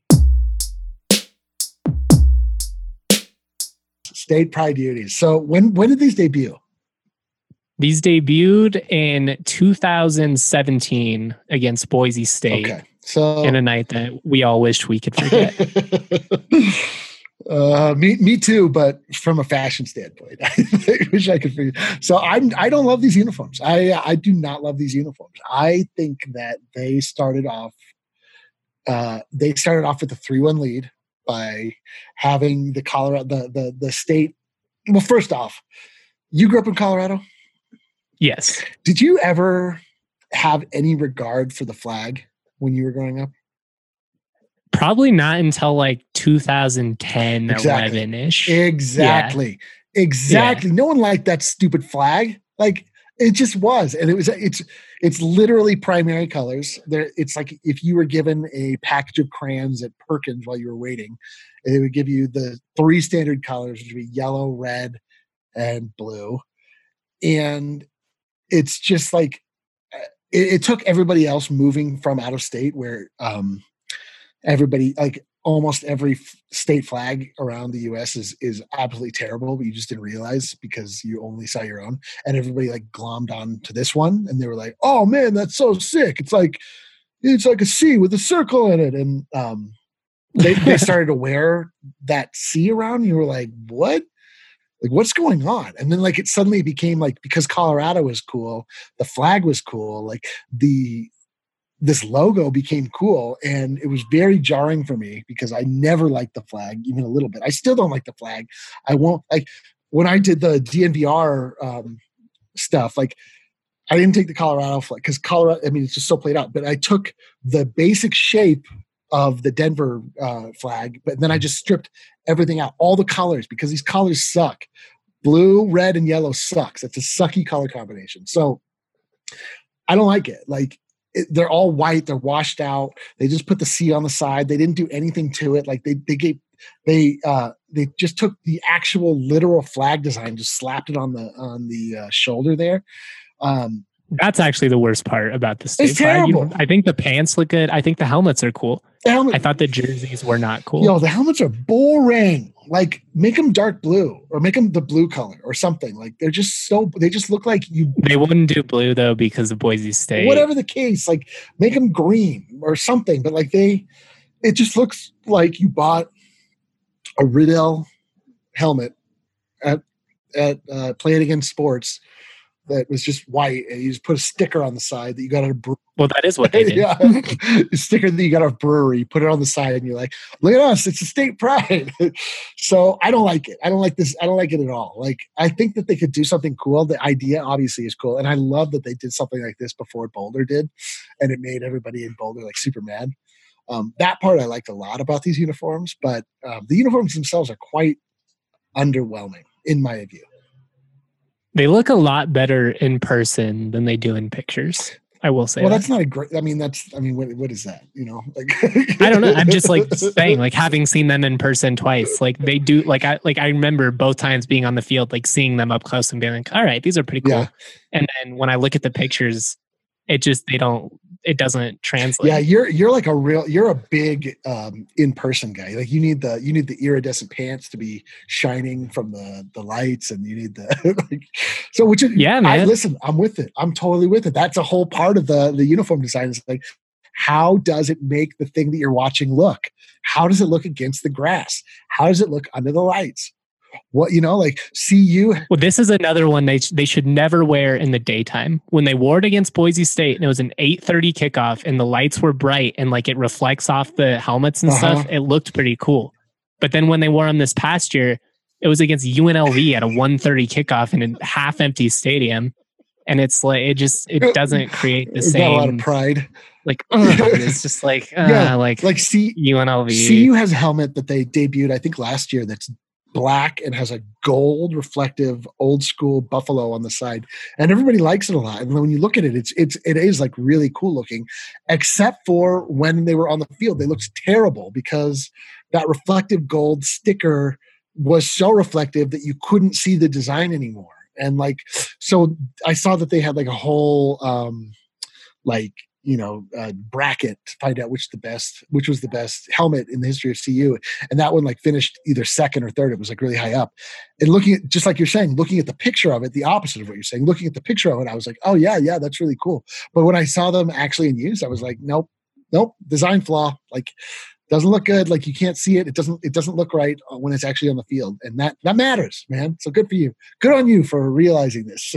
State pride beauties. So when did these debut? These debuted in 2017 against Boise State. Okay. So in a night that we all wished we could forget. Me too, but from a fashion standpoint, I wish I could figure. So I don't love these uniforms. I do not love these uniforms. I think that they started off with a 3-1 lead by having the Colorado the state. Well, first off, you grew up in Colorado. Yes. Did you ever have any regard for the flag when you were growing up? Probably not until like 2010, 11-ish. Exactly. Yeah. Exactly. Yeah. No one liked that stupid flag. Like it just was. And it's literally primary colors. It's like if you were given a package of crayons at Perkins while you were waiting, it would give you the 3 standard colors, which would be yellow, red, and blue. And it's just like it took everybody else moving from out of state where everybody, like almost every state flag around the U.S. is absolutely terrible, but you just didn't realize because you only saw your own. And everybody like glommed on to this one, and they were like, "Oh man, that's so sick! It's like a C with a circle in it." And they started to wear that C around. And you were like, "What? Like, what's going on?" And then like it suddenly became like, because Colorado was cool, the flag was cool, like this logo became cool, and it was very jarring for me because I never liked the flag even a little bit. I still don't like the flag. I won't, like when I did the DNVR stuff, like I didn't take the Colorado flag because Colorado, I mean, it's just so played out, but I took the basic shape of the Denver flag, but then I just stripped everything out, all the colors, because these colors suck. Blue, red, and yellow sucks. It's a sucky color combination. So I don't like it. Like they're all white. They're washed out. They just put the C on the side. They didn't do anything to it. Like they just took the actual literal flag design, just slapped it on the shoulder there. That's actually the worst part about the state flag. Terrible. I think the pants look good. I think the helmets are cool. I thought the jerseys were not cool. Yo, the helmets are boring. Like, make them dark blue or make them the blue color or something. Like, they just look like you. They wouldn't do blue though because of Boise State. Whatever the case, like make them green or something. But like it just looks like you bought a Riddell helmet at Play It Again Sports that was just white, and you just put a sticker on the side that you got at a brewery. Well, that is what they did. Yeah, a sticker that you got at a brewery. You put it on the side, and you're like, "Look at us! It's a state pride." So I don't like it. I don't like this. I don't like it at all. Like, I think that they could do something cool. The idea obviously is cool, and I love that they did something like this before Boulder did, and it made everybody in Boulder like super mad. That part I liked a lot about these uniforms, but the uniforms themselves are quite underwhelming in my view. They look a lot better in person than they do in pictures. I will say. Well, that. that's not a great. What is that? You know, like I don't know. I'm just like saying, like having seen them in person twice, like they do. Like I remember both times being on the field, like seeing them up close and being like, all right, these are pretty cool. Yeah. And then when I look at the pictures, it doesn't translate. Yeah, you're a big in-person guy. Like you need the iridescent pants to be shining from the lights, and you need the man. Listen, I'm with it. I'm totally with it. That's a whole part of the uniform design. Is like, how does it make the thing that you're watching look? How does it look against the grass? How does it look under the lights? What, like CU. Well, this is another one they should never wear in the daytime. When they wore it against Boise State and it was an 8:30 kickoff and the lights were bright and like it reflects off the helmets and stuff, it looked pretty cool. But then when they wore them this past year, it was against UNLV at a 1:30 kickoff in a half empty stadium. And it's like, it doesn't create the same. Got a lot of pride. Like, it's just like, UNLV. CU has a helmet that they debuted, I think last year, that's black and has a gold reflective old school buffalo on the side, and everybody likes it a lot. And when you look at it, it is like really cool looking, except for when they were on the field, they looked terrible because that reflective gold sticker was so reflective that you couldn't see the design anymore. And like, so I saw that they had like a whole bracket to find out which was the best helmet in the history of CU. And that one like finished either second or third. It was like really high up. And looking at, just like you're saying, looking at the picture of it, the opposite of what you're saying, looking at the picture of it, I was like, oh yeah, that's really cool. But when I saw them actually in use, I was like, nope, design flaw. Like, doesn't look good. Like, you can't see it. It doesn't look right when it's actually on the field. And that matters, man. So good for you. Good on you for realizing this.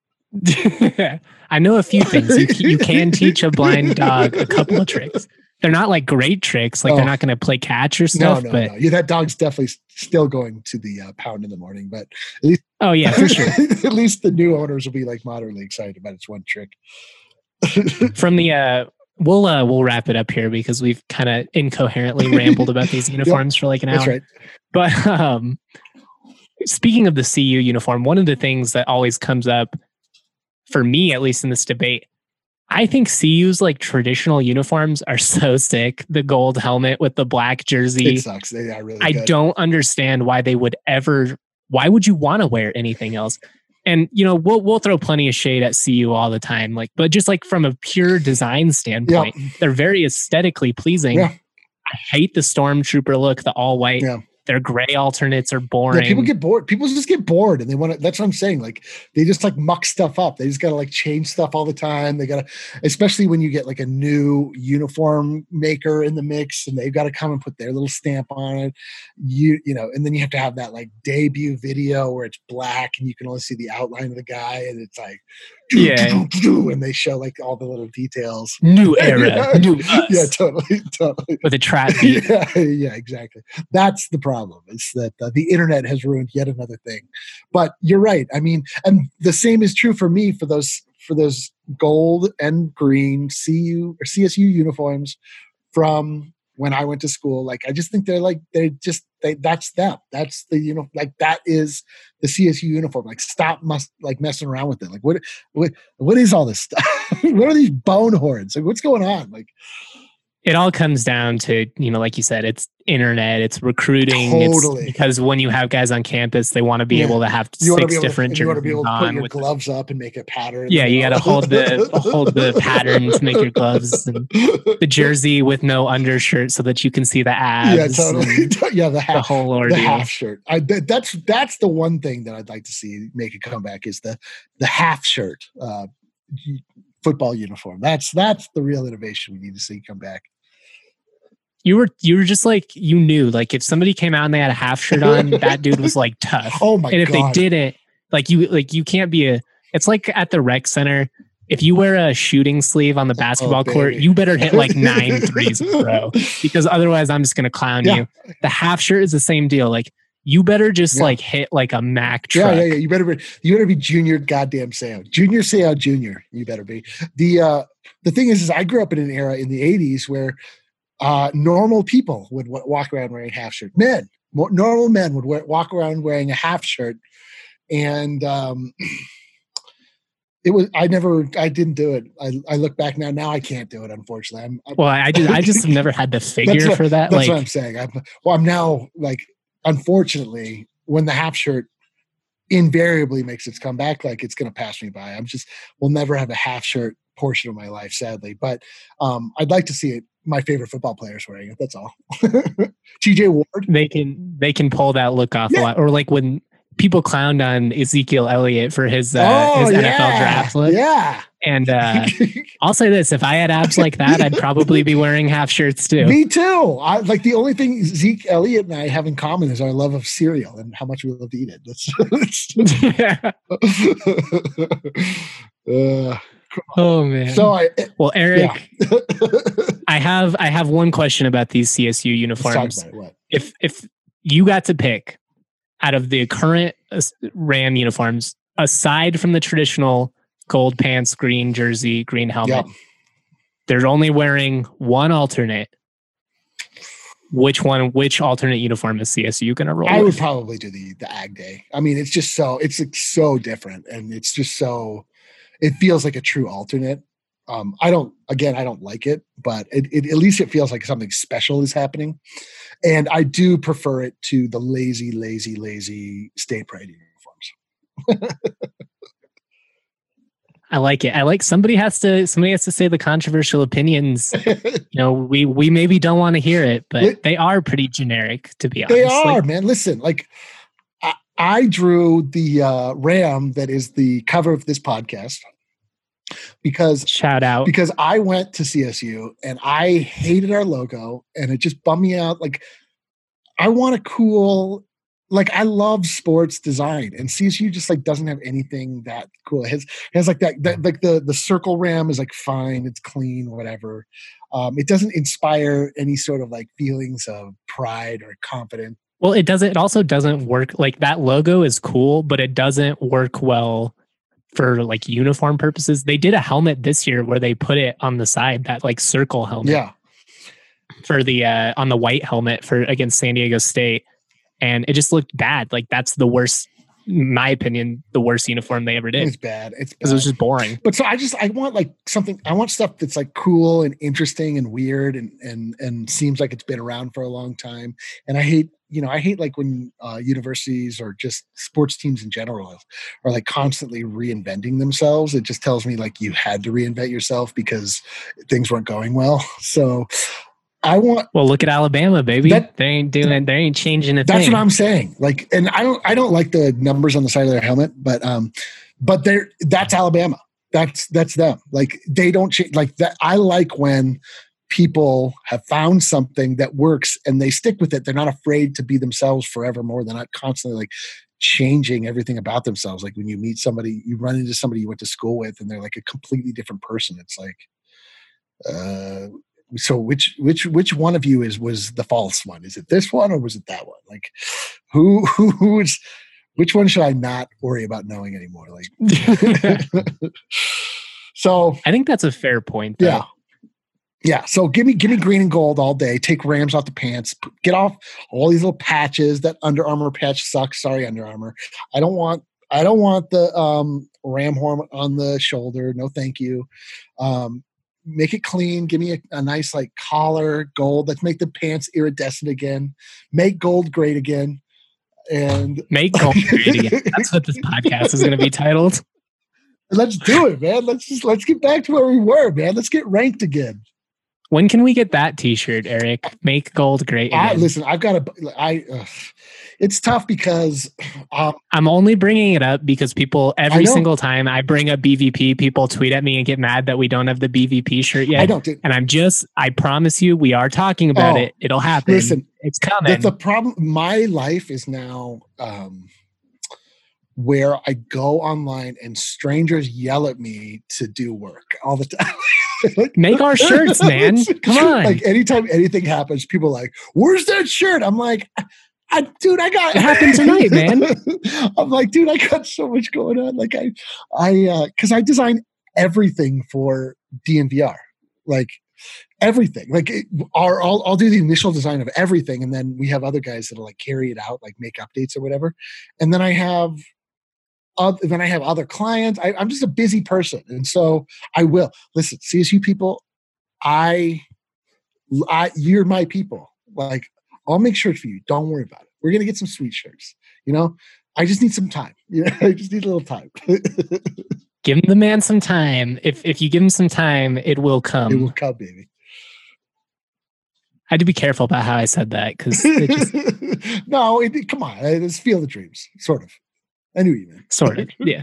I know a few things. You can teach a blind dog a couple of tricks. They're not like great tricks. Like they're not going to play catch or stuff. No. Yeah, that dog's definitely still going to the pound in the morning. But at least, oh yeah, for sure. At least the new owners will be like moderately excited about its one trick. From the we'll wrap it up here because we've kind of incoherently rambled about these uniforms for like an hour. That's right. But speaking of the CU uniform, one of the things that always comes up for me, at least in this debate, I think CU's like traditional uniforms are so sick. The gold helmet with the black jersey. It sucks. They are really good. I don't understand why why would you want to wear anything else? And, we'll throw plenty of shade at CU all the time. Like, but just like from a pure design standpoint, they're very aesthetically pleasing. Yeah. I hate the Stormtrooper look, the all white. Yeah. Their gray alternates are boring. Yeah, people get bored. People just get bored, and they want to. That's what I'm saying. Like, they just like muck stuff up. They just got to like change stuff all the time. They got to, especially when you get like a new uniform maker in the mix, and they've got to come and put their little stamp on it. And then you have to have that like debut video where it's black and you can only see the outline of the guy, and it's like, and they show like all the little details. New era, new us. Yeah, totally. With a trap beat. Yeah, exactly. That's the problem. It's that the internet has ruined yet another thing. But you're right. I mean, and the same is true for me for those gold and green CU or CSU uniforms from when I went to school. Like, I just think that's them. That's the, like, that is the CSU uniform. Like, stop messing around with it. Like, what is all this stuff? What are these bone horns? Like, what's going on? Like, it all comes down to, like you said, it's internet, it's recruiting. Totally. It's because when you have guys on campus, they want to be able to have six different jerseys. You want to be able to put your gloves up and make a pattern. Yeah, you got to hold the pattern to make your gloves, and the jersey with no undershirt so that you can see the abs. Yeah, totally. The whole ordeal. The half shirt. That's the one thing that I'd like to see make a comeback is the half shirt. Football uniform. That's the real innovation we need to see come back. You were just like, you knew, like, if somebody came out and they had a half shirt on, that dude was like tough. Oh my god! And if they didn't, like you can't be It's like at the rec center. If you wear a shooting sleeve on the basketball court, baby. you better hit like 9 threes in a row, because otherwise I'm just going to clown you. The half shirt is the same deal. Like, you better just like hit like a Mack truck. Yeah. You better be Junior goddamn Seau. Junior Seau Jr. You better be. The thing is I grew up in an era in the 80s where normal people would walk around wearing half shirt. Normal men would walk around wearing a half shirt. And I didn't do it. I look back now I can't do it, unfortunately. I just have never had the figure for that. That's what I'm saying. I'm now like, unfortunately, when the half shirt invariably makes its comeback, like, it's going to pass me by. We'll never have a half shirt portion of my life, sadly. But I'd like to see it. My favorite football players wearing it. That's all. TJ Ward. They can pull that look off a lot. Or like when people clowned on Ezekiel Elliott for his NFL draft look. Yeah. And I'll say this: if I had abs like that, I'd probably be wearing half shirts too. Me too. Like, the only thing Zeke Elliott and I have in common is our love of cereal and how much we love to eat it. Oh man. Eric, I have one question about these CSU uniforms. If you got to pick out of the current Ram uniforms, aside from the traditional gold pants, green jersey, green helmet, they're only wearing one alternate. Which alternate uniform is CSU going to roll? I would probably do the Ag Day. I mean, it's just it's like so different, and it's just it feels like a true alternate. I don't like it, but at least it feels like something special is happening. And I do prefer it to the lazy state pride uniforms. I like it. I like somebody has to say the controversial opinions. We maybe don't want to hear it, but they are pretty generic, to be honest. They are, man. Listen, like, I drew the Ram that is the cover of this podcast. Shout out, because I went to CSU and I hated our logo and it just bummed me out. Like, I want a cool, like, I love sports design, and CSU just like doesn't have anything that cool. It has like that like the circle ram is like fine, it's clean, whatever. It doesn't inspire any sort of like feelings of pride or confidence. Well, it also doesn't work. Like, that logo is cool, but it doesn't work well for like uniform purposes. They did a helmet this year where they put it on the side, that like circle helmet. Yeah. For the on the white helmet for against San Diego State, and it just looked bad. Like, that's the worst, in my opinion, the worst uniform they ever did. It's bad. Because it was just boring. But so I want like something. I want stuff that's like cool and interesting and weird and seems like it's been around for a long time. And I hate like when universities or just sports teams in general are like constantly reinventing themselves. It just tells me like you had to reinvent yourself because things weren't going well. So look at Alabama, baby. They ain't changing a thing. That's what I'm saying. Like, and I don't like the numbers on the side of their helmet, but that's Alabama. That's them. Like, they don't change like that. I like when people have found something that works and they stick with it. They're not afraid to be themselves forevermore. They're not constantly like changing everything about themselves. Like, when you meet somebody, you run into somebody you went to school with and they're like a completely different person. It's like, so which one of you was the false one? Is it this one or was it that one? Like, which one should I not worry about knowing anymore? Like, so I think that's a fair point, though. Yeah. So give me green and gold all day. Take Rams off the pants. Get off all these little patches. That Under Armour patch sucks. Sorry, Under Armour. I don't want the ram horn on the shoulder. No, thank you. Make it clean. Give me a nice like collar, gold. Let's make the pants iridescent again. Make gold great again. And make gold great again. That's what this podcast is going to be titled. Let's do it, man. Let's get back to where we were, man. Let's get ranked again. When can we get that T-shirt, Eric? Make gold great again. Listen, it's tough because I'm only bringing it up because people every single time I bring up BVP, people tweet at me and get mad that we don't have the BVP shirt yet. I don't. And I promise you, we are talking about it. It'll happen. Listen, it's coming. The problem. My life is now where I go online and strangers yell at me to do work all the time. Like, make our shirts, man. Come on. Like anytime anything happens, people are like, where's that shirt? I'm like, dude, I got it happened tonight, man. I'm like, dude, I got so much going on. Like because I design everything for DNVR, like everything. Like I'll do the initial design of everything, and then we have other guys that'll like carry it out, like make updates or whatever. And then I have other clients. I'm just a busy person, and so I will listen. CSU people, you're my people. Like I'll make shirts for you. Don't worry about it. We're gonna get some sweet shirts. You know, I just need some time. You know, I just need a little time. Give the man some time. If you give him some time, it will come. It will come, baby. I had to be careful about how I said that because no, come on. Let's feel the dreams, sort of. I knew you, man. Sort of, yeah.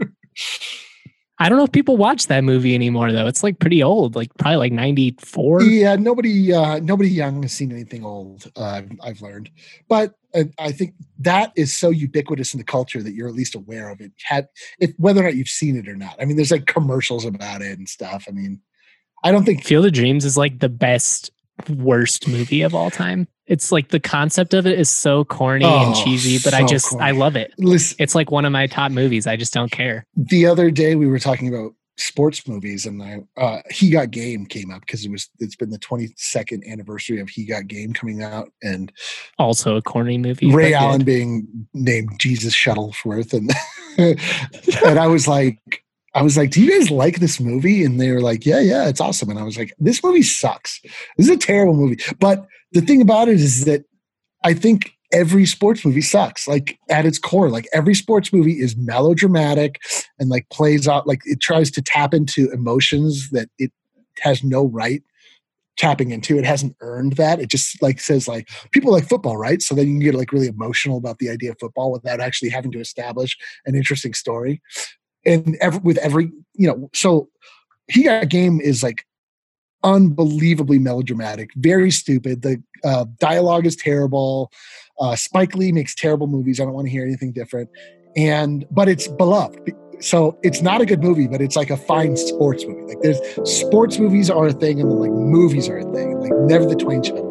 I don't know if people watch that movie anymore, though. It's like pretty old, like probably like 94. Yeah, nobody young has seen anything old. I've learned, but I think that is so ubiquitous in the culture that you're at least aware of it. Whether or not you've seen it or not. I mean, there's like commercials about it and stuff. I mean, I don't think Field of Dreams is like the worst movie of all time. It's like the concept of it is so corny and cheesy, but I love it. Listen, it's like one of my top movies. I just don't care. The other day we were talking about sports movies, and He Got Game came up because it's been the 22nd anniversary of He Got Game coming out, and also a corny movie. Ray Allen being named Jesus Shuttlesworth, and and I was like, do you guys like this movie? And they were like, yeah, it's awesome. And I was like, this movie sucks. This is a terrible movie. But the thing about it is that I think every sports movie sucks. Like at its core, like every sports movie is melodramatic and like plays out, like it tries to tap into emotions that it has no right tapping into. It hasn't earned that. It just like says like people like football, right? So then you can get like really emotional about the idea of football without actually having to establish an interesting story. And so He Got Game is like unbelievably melodramatic, very stupid. The dialogue is terrible. Spike Lee makes terrible movies. I don't want to hear anything different. But it's beloved. So it's not a good movie, but it's like a fine sports movie. Like there's sports movies are a thing, and then like movies are a thing. Like never the twain shall meet.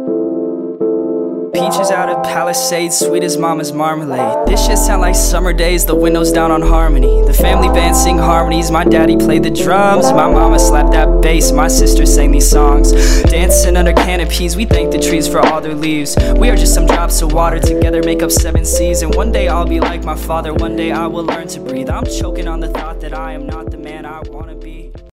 Peaches out of Palisades, sweet as mama's marmalade. This shit sound like summer days, the windows down on Harmony. The family band sing harmonies, my daddy played the drums. My mama slapped that bass, my sister sang these songs. Dancing under canopies, we thank the trees for all their leaves. We are just some drops of water, together make up 7 seas. And one day I'll be like my father, one day I will learn to breathe. I'm choking on the thought that I am not the man I want.